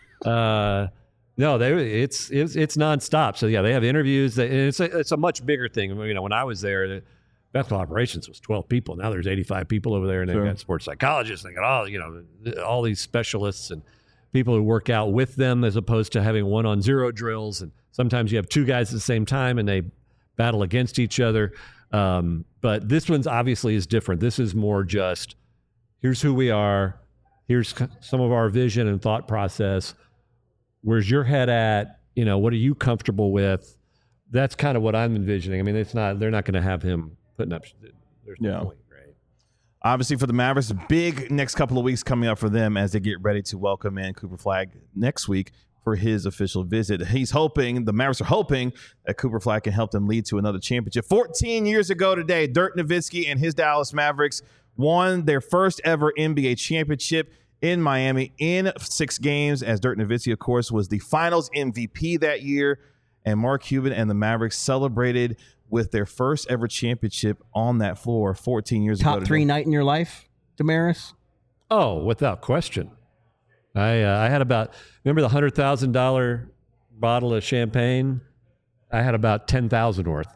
uh, no, they it's it's it's nonstop. So yeah, they have interviews. They, and it's a, it's a much bigger thing. You know, when I was there, the basketball operations was twelve people. Now there's eighty-five people over there, and they've Sure. got sports psychologists. They got all you know all these specialists and people who work out with them, as opposed to having one on zero drills. And sometimes you have two guys at the same time, and they battle against each other. Um, but this one's obviously is different. This is more just, here's who we are. Here's c- some of our vision and thought process. Where's your head at? You know, what are you comfortable with? That's kind of what I'm envisioning. I mean, it's not, they're not going to have him putting up, there's no Yeah. point, right? Obviously, for the Mavericks, big next couple of weeks coming up for them as they get ready to welcome in Cooper Flagg next week for his official visit. He's hoping, the Mavericks are hoping, that Cooper Flagg can help them lead to another championship. fourteen years ago today, Dirk Nowitzki and his Dallas Mavericks won their first ever N B A championship in Miami in six games, as Dirk Nowitzki, of course, was the finals M V P that year. And Mark Cuban and the Mavericks celebrated with their first ever championship on that floor fourteen years ago. Top three night in your life, Damaris? Oh, without question. I uh, I had about, remember the one hundred thousand dollars bottle of champagne? I had about ten thousand worth.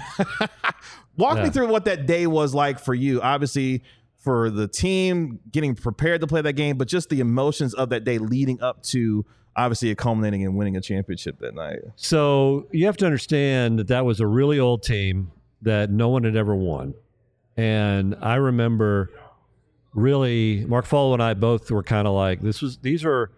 Walk Yeah. me through what that day was like for you. Obviously, for the team getting prepared to play that game, but just the emotions of that day leading up to obviously culminating in winning a championship that night. So you have to understand that that was a really old team that no one had ever won. And I remember really, Mark Follow and I both were kind of like, this was, these are,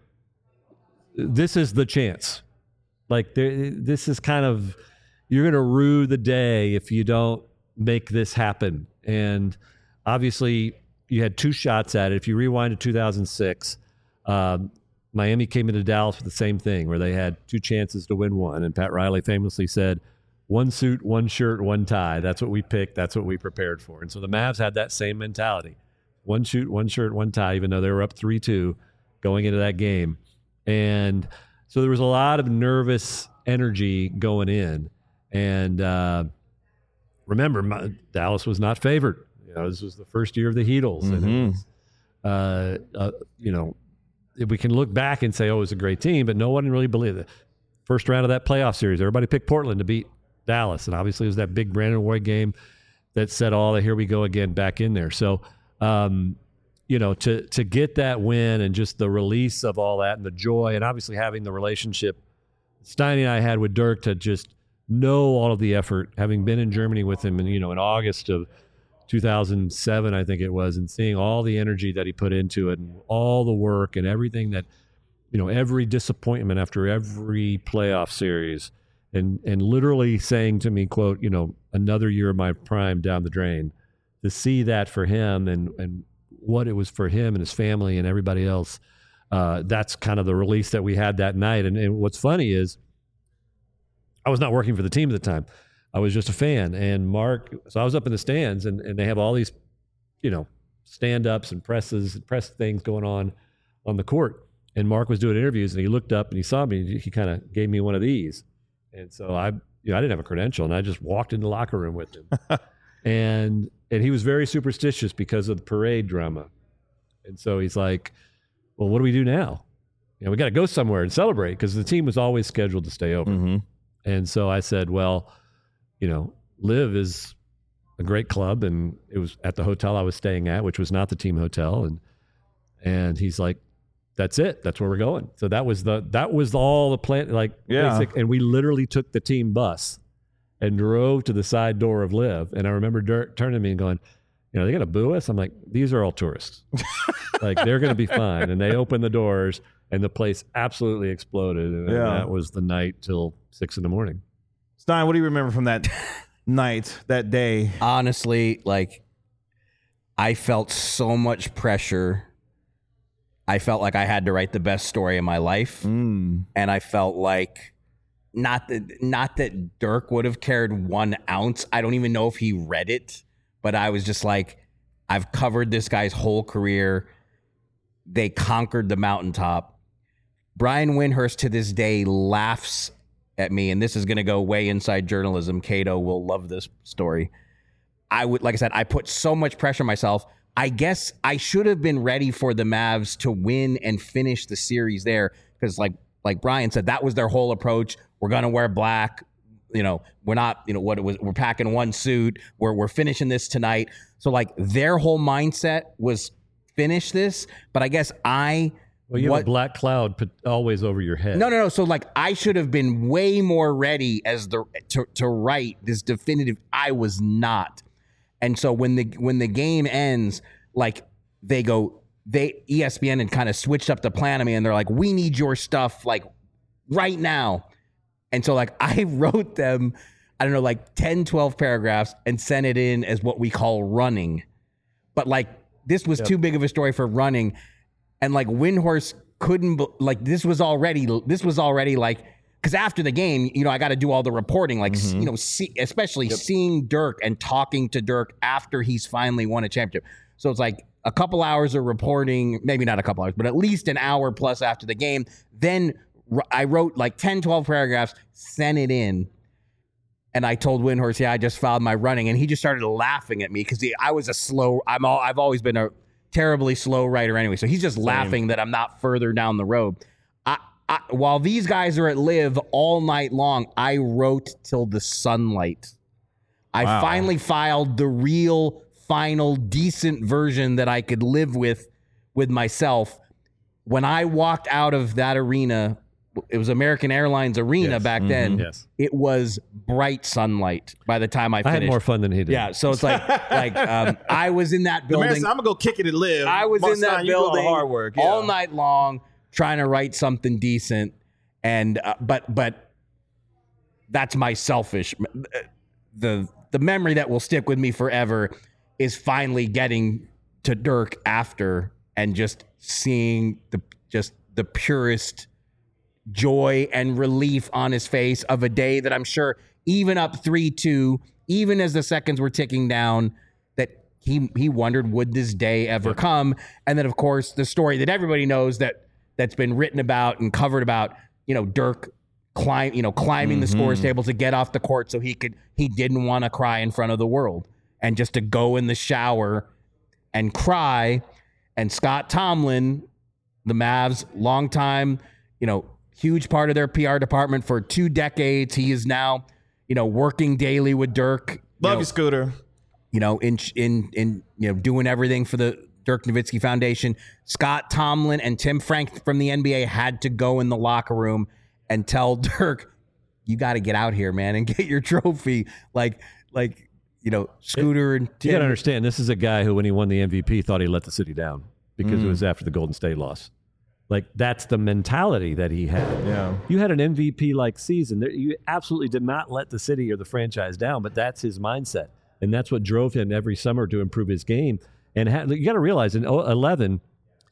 this is the chance. Like there, this is kind of, you're going to rue the day if you don't make this happen. And obviously you had two shots at it. If you rewind to two thousand six, um, Miami came into Dallas with the same thing, where they had two chances to win one. And Pat Riley famously said, one suit, one shirt, one tie. That's what we picked. That's what we prepared for. And so the Mavs had that same mentality. One shoot, one shirt, one tie, even though they were up three two going into that game. And so there was a lot of nervous energy going in. And uh, remember, my, Dallas was not favored. You know, this was the first year of the Heatles. Mm-hmm. And it was, uh, uh, you know, we can look back and say, oh, it was a great team, but no one really believed it. First round of that playoff series, everybody picked Portland to beat Dallas. And obviously it was that big Brandon Roy game that said, oh, here we go again back in there. So, um, you know, to to get that win and just the release of all that and the joy, and obviously having the relationship Steiny and I had with Dirk to just know all of the effort, having been in Germany with him, and you know, in August of two thousand seven, I think it was, and seeing all the energy that he put into it and all the work and everything that, you know, every disappointment after every playoff series, and and literally saying to me, quote, you know, another year of my prime down the drain, to see that for him and and what it was for him and his family and everybody else, uh, that's kind of the release that we had that night. And, and what's funny is I was not working for the team at the time. I was just a fan. And Mark, so I was up in the stands, and, and they have all these, you know, stand-ups and presses, press things going on on the court. And Mark was doing interviews, and he looked up and he saw me. He kind of gave me one of these. And so I, you know, I didn't have a credential, and I just walked in the locker room with him. and and he was very superstitious because of the parade drama. And so he's like, well, what do we do now? You know, we got to go somewhere and celebrate, because the team was always scheduled to stay over. Mm-hmm. And so I said, well, you know, Live is a great club, and it was at the hotel I was staying at, which was not the team hotel. And and he's like, that's it. That's where we're going. So that was the that was all the plan. Like, Yeah. basic, and we literally took the team bus and drove to the side door of Live. And I remember Dirk turning to me and going, you know, they got to boo us. I'm like, these are all tourists. Like, they're going to be fine. And they opened the doors, and the place absolutely exploded. And Yeah. that was the night till six in the morning. Stein, what do you remember from that night, that day? Honestly, like, I felt so much pressure. I felt like I had to write the best story of my life. Mm. And I felt like not that not that Dirk would have cared one ounce. I don't even know if he read it, but I was just like, I've covered this guy's whole career. They conquered the mountaintop. Brian Windhurst to this day laughs at me, and this is going to go way inside journalism. Cato will love this story. I would, like I said, I put so much pressure on myself. I guess I should have been ready for the Mavs to win and finish the series there, because like like Brian said, that was their whole approach. We're going to wear black. You know, we're not, you know, what it was, we're packing one suit. We're we're finishing this tonight. So like their whole mindset was finish this, but I guess I Well, you what, have a black cloud put always over your head. No, no, no. So like I should have been way more ready as the to, to write this definitive. I was not. And so when the when the game ends, like they go, they E S P N and kind of switched up the plan on me, and they're like, we need your stuff like right now. And so like I wrote them, I don't know, like ten, twelve paragraphs and sent it in as what we call running. But like this was too big of a story for running. And like Windhorst couldn't, be- like this was already, this was already like, because after the game, you know, I got to do all the reporting, like, mm-hmm. you know, see, especially yep. seeing Dirk and talking to Dirk after he's finally won a championship. So it's like a couple hours of reporting, maybe not a couple hours, but at least an hour plus after the game. Then r- I wrote like ten, twelve paragraphs, sent it in. And I told Windhorst, yeah, I just filed my running. And he just started laughing at me because I was a slow, I'm all, I've always been a terribly slow writer anyway. So he's just Same. laughing that I'm not further down the road. I, I, while these guys are at Live all night long, I wrote till the sunlight. I wow. finally filed the real, final, decent version that I could live with, with myself. When I walked out of that arena, it was American Airlines Arena yes. back mm-hmm. then. Yes. It was bright sunlight by the time I finished. I had more fun than he did. Yeah, so it's like, like um, I was in that building. I'm gonna go kick it and live. I was Most in that time, building hard work, yeah. all night long, trying to write something decent. And uh, but but that's my selfish. The the memory that will stick with me forever is finally getting to Dirk after and just seeing the just the purest joy and relief on his face of a day that I'm sure even up three two, even as the seconds were ticking down, that he he wondered, would this day ever come? And then of course the story that everybody knows that that's been written about and covered about, you know, Dirk climb, you know, climbing mm-hmm. the scores table to get off the court so he could he didn't want to cry in front of the world and just to go in the shower and cry. And Scott Tomlin, the Mavs, long time, you know, huge part of their P R department for two decades. He is now, you know, working daily with Dirk. Love you, know, you, Scooter. You know, in in in you know, doing everything for the Dirk Nowitzki Foundation. Scott Tomlin and Tim Frank from the N B A had to go in the locker room and tell Dirk, "You got to get out here, man, and get your trophy." Like, like you know, Scooter and Tim. You got to understand, this is a guy who, when he won the M V P, thought he let the city down because mm. it was after the Golden State loss. Like, that's the mentality that he had. Yeah. You had an M V P-like season. You absolutely did not let the city or the franchise down, but that's his mindset. And that's what drove him every summer to improve his game. And ha- you got to realize, in eleven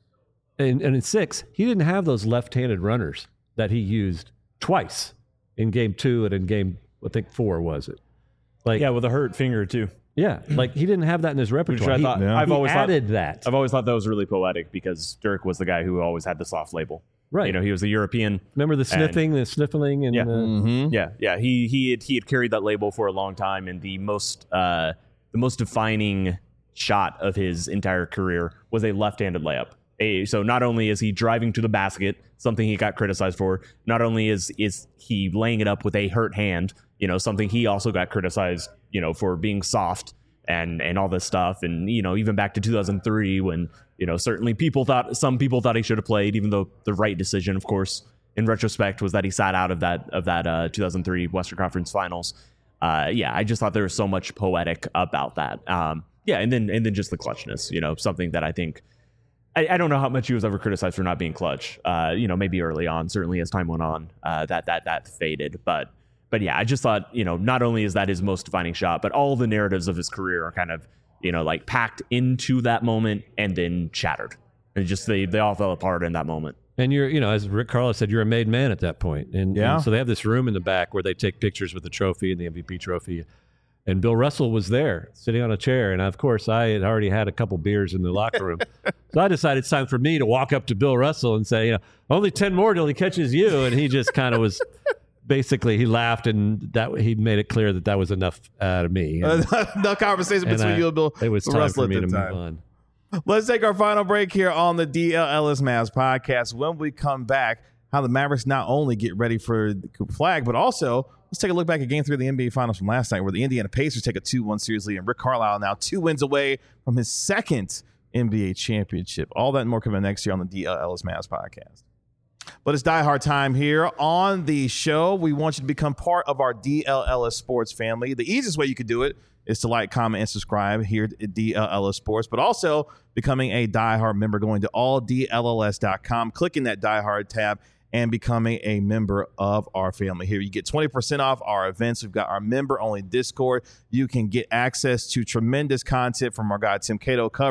and, and in six, he didn't have those left-handed runners that he used twice in game two and in game, I think, four, was it? Like, yeah, with a hurt finger, too. Yeah, like he didn't have that in his repertoire. I thought, he, yeah. I've he always added thought, that. I've always thought that was really poetic because Dirk was the guy who always had the soft label. Right. You know, he was a European. Remember the sniffing, and, the sniffling, and yeah, uh, mm-hmm. yeah, yeah. He he had he had carried that label for a long time, and the most uh, the most defining shot of his entire career was a left-handed layup. A, so not only is he driving to the basket, something he got criticized for, not only is is he laying it up with a hurt hand, you know, something he also got criticized, you know, for being soft and and all this stuff, and you know, even back to two thousand three when, you know, certainly people thought some people thought he should have played, even though the right decision, of course, in retrospect, was that he sat out of that of that uh, two thousand three Western Conference Finals. Uh, yeah, I just thought there was so much poetic about that. Um, yeah, and then and then just the clutchness, you know, something that I think. I, I don't know how much he was ever criticized for not being clutch. Uh, you know, maybe early on, certainly as time went on, uh, that that that faded. But but yeah, I just thought, you know, not only is that his most defining shot, but all the narratives of his career are kind of, you know, like packed into that moment and then shattered. And just they they all fell apart in that moment. And you're, you know, as Rick Carlisle said, you're a made man at that point. And, yeah. and so they have this room in the back where they take pictures with the trophy and the M V P trophy. And Bill Russell was there sitting on a chair. And of course, I had already had a couple beers in the locker room. So I decided it's time for me to walk up to Bill Russell and say, you know, only ten more till he catches you. And he just kind of was basically, he laughed and that he made it clear that that was enough out of me. And, no conversation between I, you and Bill. It was time Russell for me to time. move on. Let's take our final break here on the D L Ellis Mavs podcast. When we come back, how the Mavericks not only get ready for the Cooper Flag, but also let's take a look back at Game three of the N B A Finals from last night, where the Indiana Pacers take a two one series lead, and Rick Carlisle now two wins away from his second N B A championship. All that and more coming next year on the D L Ellis Mavs podcast. But it's Die Hard time here on the show. We want you to become part of our D L Ellis Sports family. The easiest way you could do it is to like, comment, and subscribe here at D L Ellis Sports, but also becoming a Die Hard member, going to all D L L S dot com, clicking that Die Hard tab, and becoming a member of our family here. You get twenty percent off our events. We've got our member-only Discord. You can get access to tremendous content from our guy Tim Cato covering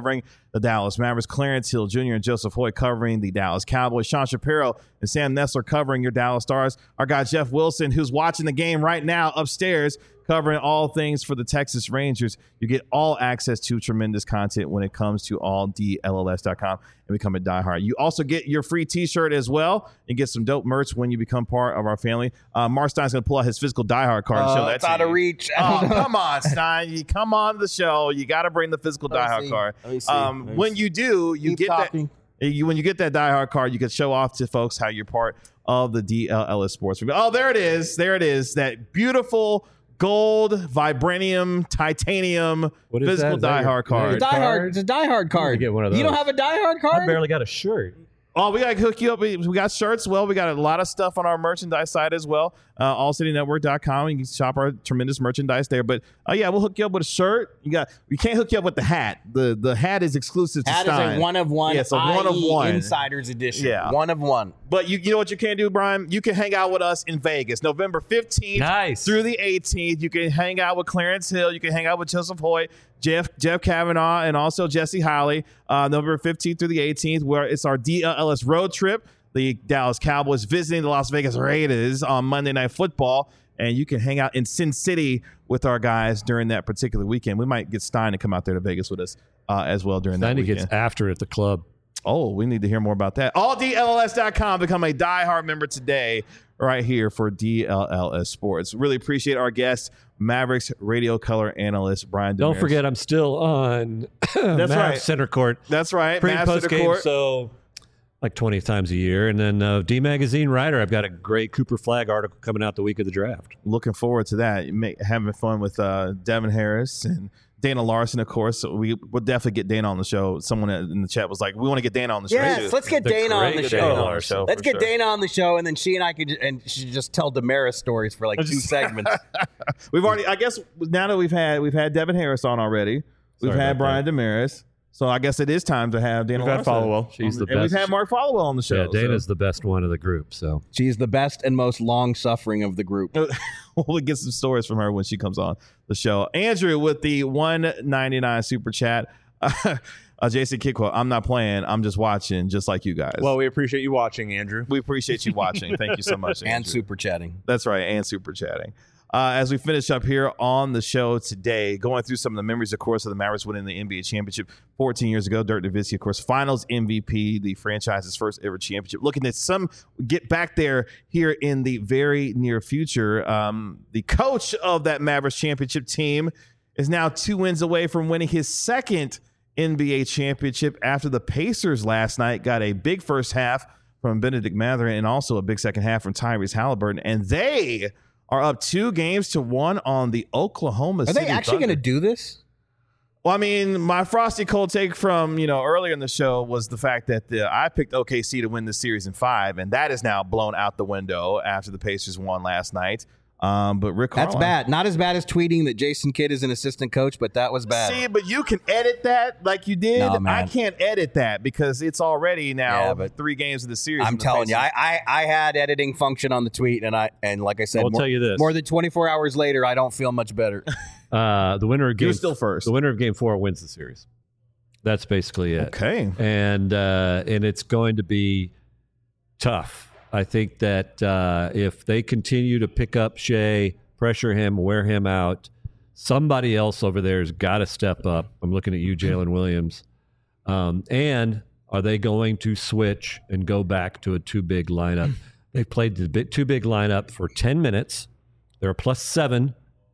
the Dallas Mavericks. Clarence Hill Junior and Joseph Hoyt covering the Dallas Cowboys. Sean Shapiro and Sam Nessler covering your Dallas Stars. Our guy Jeff Wilson, who's watching the game right now upstairs, covering all things for the Texas Rangers. You get all access to tremendous content when it comes to all D L L S dot com and become a diehard. You also get your free t-shirt as well and get some dope merch when you become part of our family. Uh, Mark Stein's going to pull out his physical diehard card and Uh, show that it's to out you. of reach. Oh, come on, Stein. You come on the show. You got to bring the physical Let me diehard see. card. Let me see. Um, Let me when see. you do, you Keep get talking. that. You, when you get that diehard card, you can show off to folks how you're part of the D L L S Sports. Oh, there it is. There it is. That beautiful gold, vibranium, titanium What is physical that? Is that your- diehard card. It's a diehard. It's a diehard card. get one of You don't those. have a diehard card? I barely got a shirt. Oh, we got to hook you up. We we got shirts. Well, we got a lot of stuff on our merchandise site as well. Uh, all city network dot com. You can shop our tremendous merchandise there. But uh, yeah, we'll hook you up with a shirt. You got. We can't hook you up with the hat. The the hat is exclusive to That is Stein. a one of one. Yeah, it's a one of I E one. Insiders edition. Yeah. One of one. But you, you know what you can do, Brian? You can hang out with us in Vegas, November fifteenth Nice. through the eighteenth. You can hang out with Clarence Hill. You can hang out with Joseph Hoyt, Jeff Jeff Kavanaugh, and also Jesse Holly. Uh, November fifteenth through the eighteenth, where it's our D L L S road trip. The Dallas Cowboys visiting the Las Vegas Raiders on Monday Night Football. And you can hang out in Sin City with our guys during that particular weekend. We might get Stein to come out there to Vegas with us uh, as well during that Steiny weekend. gets after at the club. Oh, we need to hear more about that. all D L L S dot com. Become a diehard member today right here for D L L S Sports. Really appreciate our guest, Mavericks radio color analyst Brian Don't Damaris. forget, I'm still on That's right. Center Court. That's right. Pre and Master post to game, court. so like twenty times a year. And then uh, D Magazine writer, I've got a great Cooper Flag article coming out the week of the draft. Looking forward to that. You Make, having fun with uh, Devin Harris and Dana Larson, of course. So we will definitely get Dana on the show. Someone in the chat was like, "We want to get Dana on the show." Yes, too. let's get The Dana on great the Dana show. Larson. Let's for get sure. Dana on the show, and then she and I could, and she could just tell Damaris stories for like two Just- segments. We've already, I guess, now that we've had we've had Devin Harris on already. We've Sorry had about Brian Damaris. So I guess it is time to have Dana We've had Larson. Followell. She's the and we've best. had Mark Followell on the show. Yeah, Dana's the best one of the group. So She's the best and most long suffering of the group. So we'll get some stories from her when she comes on the show. Andrew with the one ninety-nine super chat. Uh, Jason Kickwell, I'm not playing. I'm just watching, just like you guys. Well, we appreciate you watching, Andrew. we appreciate you watching. Thank you so much, And Andrew. super chatting. That's right, and super chatting. Uh, as we finish up here on the show today, going through some of the memories, of course, of the Mavericks winning the N B A championship fourteen years ago. Dirk Nowitzki, of course, Finals M V P, the franchise's first ever championship. Looking at some get back there here in the very near future. Um, the coach of that Mavericks championship team is now two wins away from winning his second N B A championship after the Pacers last night got a big first half from Benedict Mathurin and also a big second half from Tyrese Halliburton. And they are up two games to one on the Oklahoma Are City they actually going to Thunder. do this? Well, I mean, my frosty cold take from, you know, earlier in the show was the fact that the, I picked O K C to win this series in five, and that is now blown out the window after the Pacers won last night. Um, but Rick That's Carlisle- bad. Not as bad as tweeting that Jason Kidd is an assistant coach, but that was bad. See, but you can edit that like you did. No, man. I can't edit that because it's already now Yeah, but three games of the series. I'm and the telling you, Pacers- I, I I had editing function on the tweet, and I and like I said, I'll more, tell you this. more than twenty-four hours later, I don't feel much better. uh, the winner of game You're still first. The winner of game four wins the series. That's basically it. Okay. and uh, and it's going to be tough. I think that uh, if they continue to pick up Shea, pressure him, wear him out, somebody else over there has got to step up. I'm looking at you, Jalen Williams. Um, and are they going to switch and go back to a two big lineup? They've played the big, two big lineup for ten minutes. They're a plus seven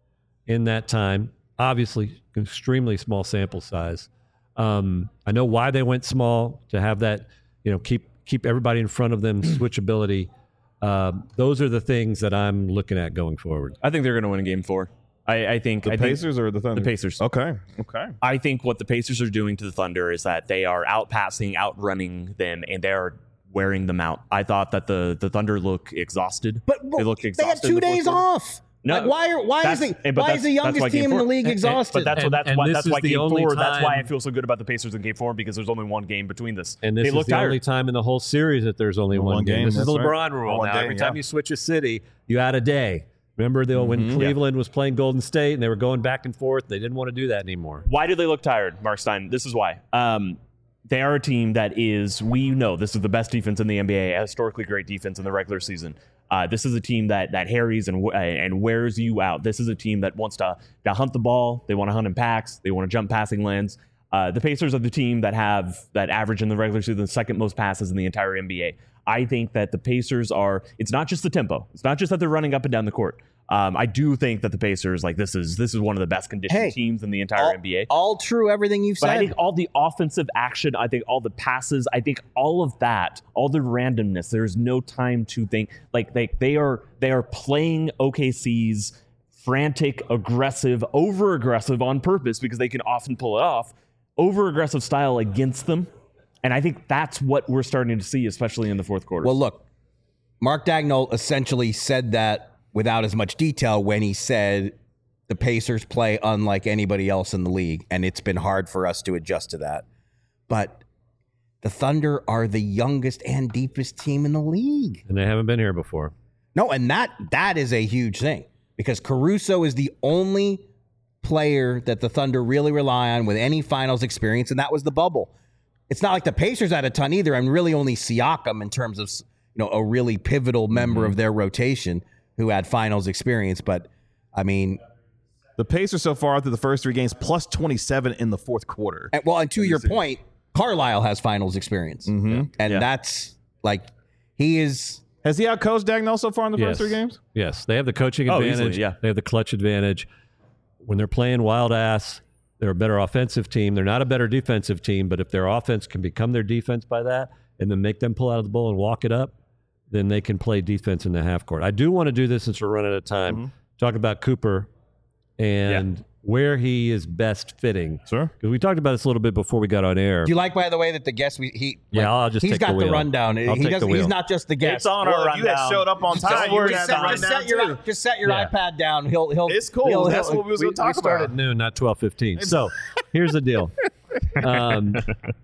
in that time. Obviously, extremely small sample size. Um, I know why they went small, to have that, you know, keep keep everybody in front of them, switchability. Um, those are the things that I'm looking at going forward. I think they're going to win in game four. I, I think The I think Pacers or the Thunder? the Pacers. Okay. Okay. I think what the Pacers are doing to the Thunder is that they are outpassing, outrunning them, and they're wearing them out. I thought that the the Thunder look exhausted. But they look they exhausted. had two in the fourth days quarter. off. No, like why are why is that's- the eh, but why that's- is the that's youngest why game team in the four- league eh, eh, exhausted? But that's And- what that's and why this that's is why the game only four. That's why I time- feel so good about the Pacers in game four because there's only one game between this. And this they is look the tired. only time in the whole series that there's only One one, game. game, This is the that's right. LeBron rule. One Now, day, every time yeah. you switch a city, you add a day. Remember though, when Mhm. Cleveland was playing Golden State and they were going back and forth, they didn't want to do that anymore. Why do they look tired, Mark Stein? This is why. Um, they are a team that is, we know this is the best defense in the N B A, a historically great defense in the regular season. Uh, this is a team that that harries and uh, and wears you out. This is a team that wants to, to hunt the ball. They want to hunt in packs. They want to jump passing lanes. Uh, the Pacers are the team that have that average in the regular season the second most passes in the entire N B A. I think that the Pacers are, it's not just the tempo. It's not just that they're running up and down the court. Um, I do think that the Pacers, like this is this is one of the best conditioned Hey, teams in the entire all, N B A. all true, everything you've But said. I think all the offensive action, I think all the passes, I think all of that, all the randomness, there's no time to think. Like they they are they are playing O K C's frantic, aggressive, over aggressive on purpose because they can often pull it off, over aggressive style against them. And I think that's what we're starting to see, especially in the fourth quarter. Well, look, Mark Daigneault essentially said that without as much detail when he said the Pacers play unlike anybody else in the league, and it's been hard for us to adjust to that. But the Thunder are the youngest and deepest team in the league. And they haven't been here before. No, and that that is a huge thing because Caruso is the only player that the Thunder really rely on with any finals experience, and that was the bubble. It's not like the Pacers had a ton either, and really only Siakam in terms of, you know, a really pivotal member mm-hmm. of their rotation who had finals experience. But I mean, the Pacers so far through the first three games plus twenty-seven in the fourth quarter. And, well, and to your point, Carlisle has finals experience, mm-hmm. and yeah. that's like he is. Has he outcoached Daigneault so far in the yes. first three games? Yes, they have the coaching Oh, advantage. easily, yeah. They have the clutch advantage. When they're playing wild ass, they're a better offensive team. They're not a better defensive team, but if their offense can become their defense by that and then make them pull out of the bowl and walk it up, then they can play defense in the half court. I do want to do this since we're running out of time. Mm-hmm. Talk about Cooper and yeah. where he is best fitting. Sure. Because we talked about this a little bit before we got on air. Do you like, by the way, that the guest we he yeah, like, I'll just he's take got the, the wheel. rundown. I'll he take doesn't. the wheel. He's not just the guest. It's on well, our if you had rundown. showed up on Just, time, you would have set, that just rundown set your too. just set your Yeah. iPad down. He'll he'll. It's cool. He'll, That's he'll, what we was we, going to talk we start about. at noon, not twelve fifteen. So here's the deal. Um,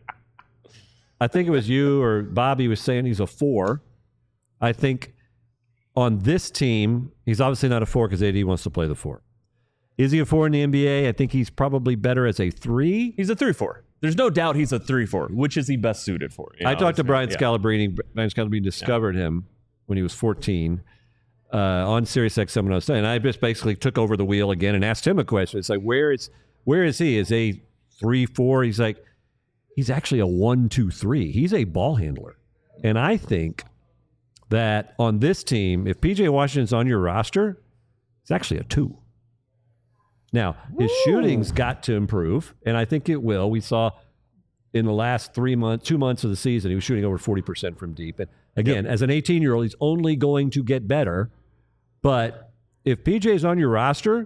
I think it was you or Bobby was saying he's a four. I think on this team, he's obviously not a four because A D wants to play the four. Is he a four in the N B A? I think he's probably better as a three. He's a three four. There's no doubt he's a three four. Which is he best suited for? You I know, talked to Brian yeah. Scalabrine. Brian Scalabrine discovered yeah. him when he was fourteen uh, on Sirius X M, and I just basically took over the wheel again and asked him a question. It's like, where is where is he? Is a three four? He's like, he's actually a one two three. He's a ball handler, and I think that on this team, if P J Washington's on your roster, it's actually a two. Now, his Ooh. shooting's got to improve, and I think it will. We saw in the last three months, two months of the season, he was shooting over forty percent from deep. And again, yep. as an eighteen-year-old, he's only going to get better. But if P J's on your roster,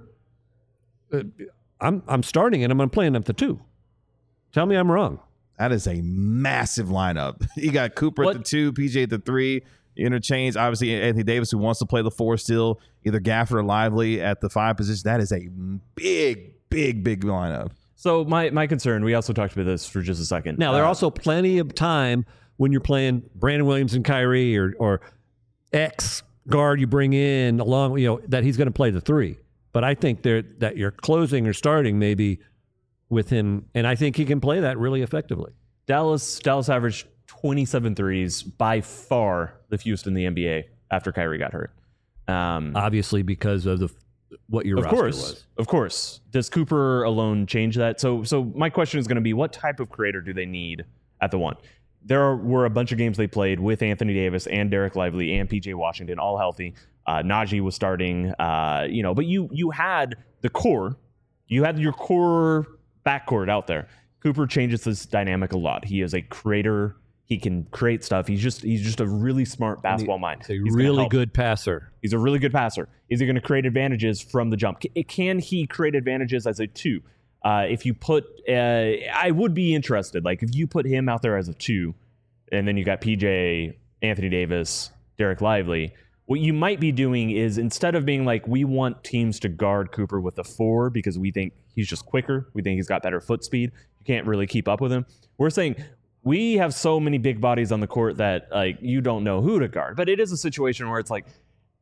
uh, I'm I'm starting and I'm playing up the two. Tell me I'm wrong. That is a massive lineup. You got Cooper what? at the two, P J at the three. Interchange, obviously, Anthony Davis, who wants to play the four still, either Gafford or Lively at the five position. That is a big, big, big lineup. So my, my concern, we also talked about this for just a second. Now, there are uh, also plenty of time when you're playing Brandon Williams and Kyrie or, or X guard you bring in along, you know, that he's going to play the three. But I think there that you're closing or starting maybe with him, and I think he can play that really effectively. Dallas Dallas averaged twenty-seven threes, by far the fewest in the N B A after Kyrie got hurt. Um, Obviously, because of the what your of roster course, was. Of course. Does Cooper alone change that? So, so my question is going to be, what type of creator do they need at the one? There are, were a bunch of games they played with Anthony Davis and Derek Lively and P J Washington, all healthy. Uh, Najee was starting, uh, you know, but you you had the core. You had your core backcourt out there. Cooper changes this dynamic a lot. He is a creator. He can create stuff. He's just he's just a really smart basketball mind. He's a He's really good passer. He's a really good passer. Is he going to create advantages from the jump? C- can he create advantages as a two? Uh, if you put, uh, I would be interested. Like if you put him out there as a two, and then you got P J, Anthony Davis, Derek Lively, what you might be doing is instead of being like, we want teams to guard Cooper with a four because we think he's just quicker, we think he's got better foot speed, you can't really keep up with him. We're saying, we have so many big bodies on the court that like you don't know who to guard. But it is a situation where it's like,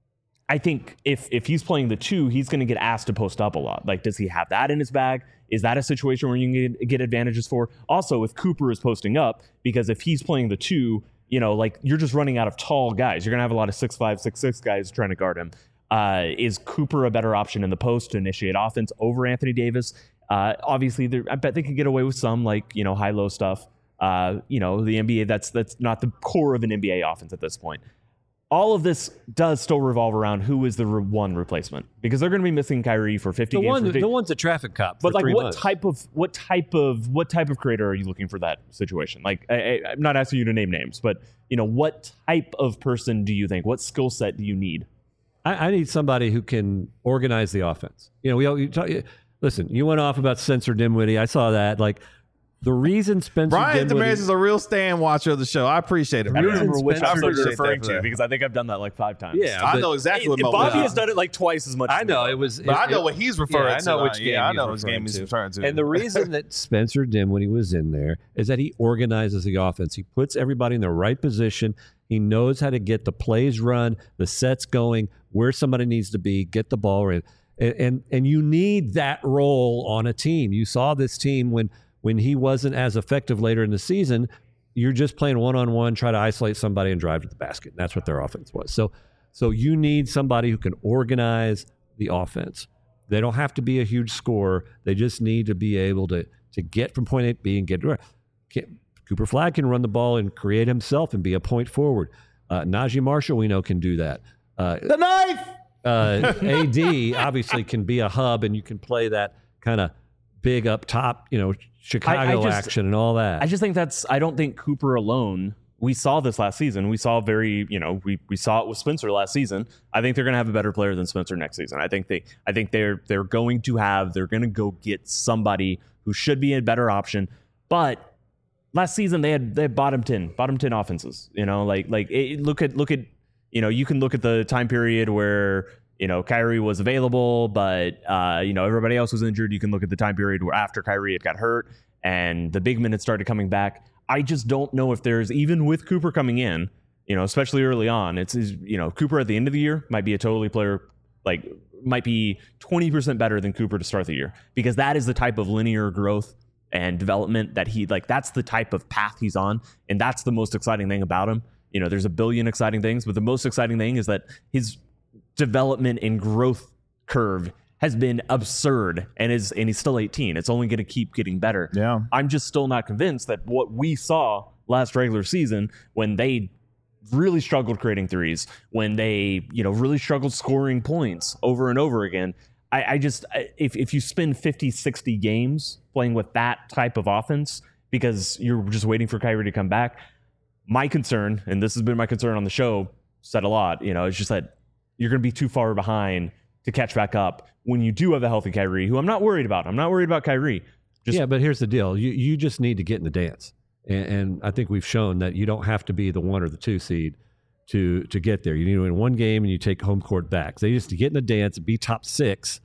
I think if if he's playing the two, he's going to get asked to post up a lot. Like, does he have that in his bag? Is that a situation where you can get, get advantages for? Also, if Cooper is posting up, because if he's playing the two, you know, like you're just running out of tall guys. You're going to have a lot of six five, six six guys trying to guard him. Uh, is Cooper a better option in the post to initiate offense over Anthony Davis? Uh, obviously, I bet they can get away with some like, you know, high-low stuff. Uh, you know, the N B A, that's that's not the core of an N B A offense at this point. All of this does still revolve around who is the re- one replacement, because they're going to be missing Kyrie for fifty The games. one, for the one's a traffic cop. but for like, three what months. type of what type of what type of creator are you looking for that situation? Like, I, I, I'm not asking you to name names, but you know, what type of person do you think? What skill set do you need? I, I need somebody who can organize the offense. You know, we all, you talk, listen. You went off about Spencer Dinwiddie. I saw that. Like, the reason Spencer Brian Dinwiddie, Damaris is a real stand watcher of the show. I appreciate it. I don't Brian. remember which Spencer- episode you're appreciate referring that for to, that. because I think I've done that like five times. Yeah, I but- know exactly what Hey, Mo Bobby was. has done it like twice as much. I as me, know though. it was. But it- I know it- what he's referring yeah, I to. know Uh, which game Yeah, I he's know which game referring he's to. referring to. And the reason that Spencer Dinwiddie was in there is that he organizes the offense. He puts everybody in the right position. He knows how to get the plays run, the sets going, where somebody needs to be, get the ball in. And, and and you need that role on a team. You saw this team when when he wasn't as effective later in the season. You're just playing one-on-one, try to isolate somebody and drive to the basket. And that's what their offense was. So so you need somebody who can organize the offense. They don't have to be a huge scorer. They just need to be able to to get from point A to B and get to can, Cooper Flagg can run the ball and create himself and be a point forward. Uh, Najee Marshall, we know, can do that. Uh, The knife. uh, A D obviously can be a hub, and you can play that kind of big up top, you know, Chicago just- action and all that. I just think that's, I don't think Cooper alone, we saw this last season. We saw very, you know, we, we saw it with Spencer last season. I think they're going to have a better player than Spencer next season. I think they, I think they're, they're going to have, they're going to go get somebody who should be a better option. But last season they had, they had bottom ten, bottom ten offenses, you know, like, like it, look at, look at, you know, you can look at the time period where, you know, Kyrie was available, but, uh, you know, everybody else was injured. You can look at the time period where after Kyrie had got hurt and the big minutes started coming back. I just don't know if there's, even with Cooper coming in, you know, especially early on, it's, is, you know, Cooper at the end of the year might be a totally player, like, might be twenty percent better than Cooper to start the year, because that is the type of linear growth and development that he, like, that's the type of path he's on. And that's the most exciting thing about him. You know, there's a billion exciting things, but the most exciting thing is that his development and growth curve has been absurd, and is and he's still eighteen. It's only going to keep getting better. Yeah. I'm just still not convinced that what we saw last regular season, when they really struggled creating threes, when they, you know, really struggled scoring points over and over again. I, I just, I, if, if you spend fifty, sixty games playing with that type of offense because you're just waiting for Kyrie to come back, my concern, and this has been my concern on the show, said a lot, you know, it's just that you're going to be too far behind to catch back up when you do have a healthy Kyrie, who I'm not worried about. I'm not worried about Kyrie. Just, yeah, but here's the deal. You you just need to get in the dance. And, and I think we've shown that you don't have to be the one or the two seed to to get there. You need to win one game and you take home court back. So you just to get in the dance, be top six,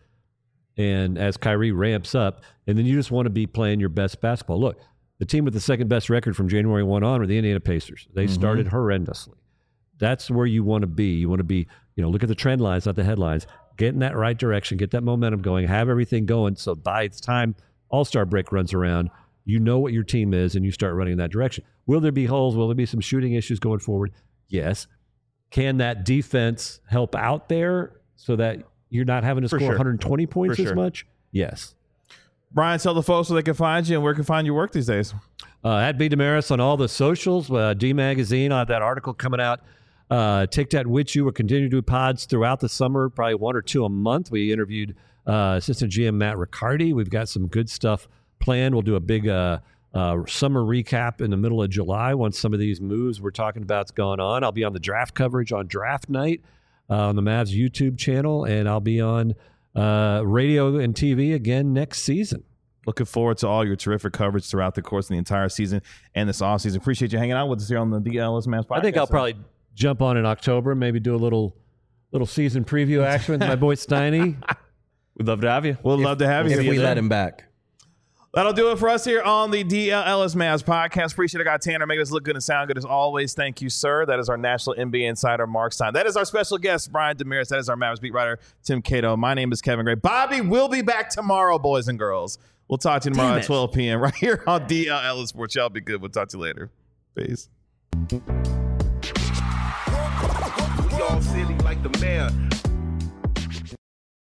and as Kyrie ramps up, and then you just want to be playing your best basketball. Look, the team with the second best record from January first on were the Indiana Pacers. They mm-hmm. started horrendously. That's where you want to be. You want to be, you know, look at the trend lines, not the headlines. Get in that right direction, get that momentum going, have everything going. So by the time All-Star break runs around, you know what your team is and you start running in that direction. Will there be holes? Will there be some shooting issues going forward? Yes. Can that defense help out there so that you're not having to For score sure. one hundred twenty points For as sure. much? Yes. Brian, tell the folks where they can find you and where can find your work these days. Uh, at B. Damaris on all the socials, uh, D Magazine, I have that article coming out. Uh, Take That With You. We'll continue to do pods throughout the summer, probably one or two a month. We interviewed uh, Assistant G M Matt Riccardi. We've got some good stuff planned. We'll do a big uh, uh, summer recap in the middle of July once some of these moves we're talking about's gone on. I'll be on the draft coverage on draft night uh, on the Mavs YouTube channel, and I'll be on uh, radio and T V again next season. Looking forward to all your terrific coverage throughout the course of the entire season and this offseason. Appreciate you hanging out with us here on the D L S Mavs podcast. I think I'll probably jump on in October, maybe do a little little season preview action with my boy Steiny. We'd love to have you. We'd love to have you. If here. we let him back. That'll do it for us here on the D L Ellis Mavs podcast. Appreciate it. I got Tanner making us look good and sound good as always. Thank you, sir. That is our National N B A Insider, Mark Stein. That is our special guest, Brian Damaris. That is our Mavs beat writer, Tim Cato. My name is Kevin Gray. Bobby will be back tomorrow, boys and girls. We'll talk to you tomorrow at twelve p.m. right here on D L Ellis Sports. Y'all be good. We'll talk to you later. Peace. We all silly like the mayor.